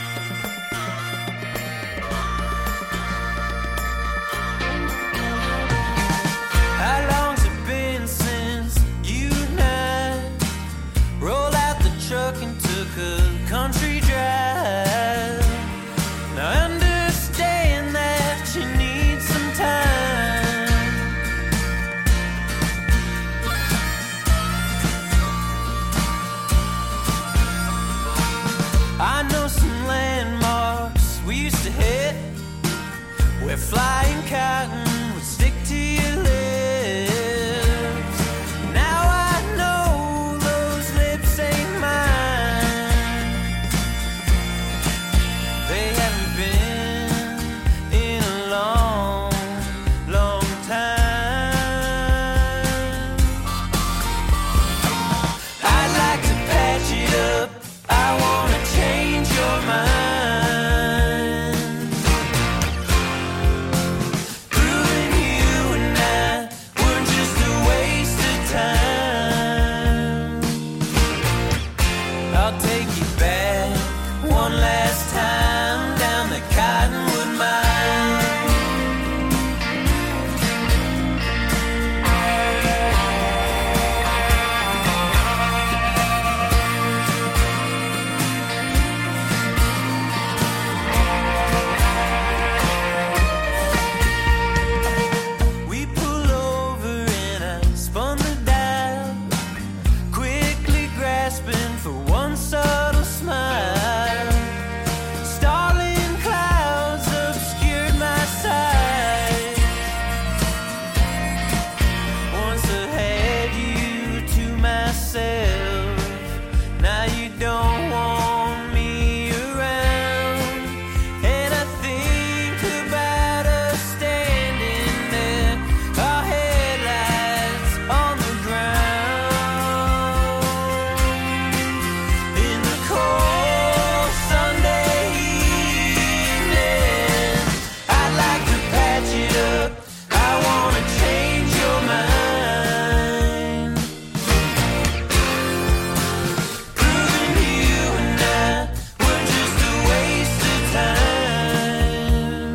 How long's it been since you and I rolled out the truck and took a country drive? Now I understand that you need some time. I know some landmarks we used to hit where flying cotton would stick to your lips. Now I know those lips ain't mine. They haven't been in a long, long time. I'd like to patch it up. I wanna change your mind. Proving you and I were just a waste of time. I'll take you back one last time down the Cottonwood Mine. We pull over and I spun the dial, quickly grasping for one subtle smile. Starling clouds obscured my sight. Once I had you to myself, now you don't want me around. And I think about us standing there, our headlights on the ground. In the cold Sunday evening, I'd like to patch it up. I wanna change your mind. Proving you and I were just a waste of time.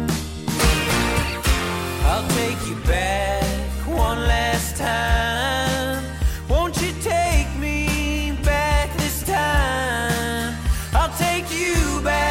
I'll take you back one last time. Won't you take me back this time? I'll take you back.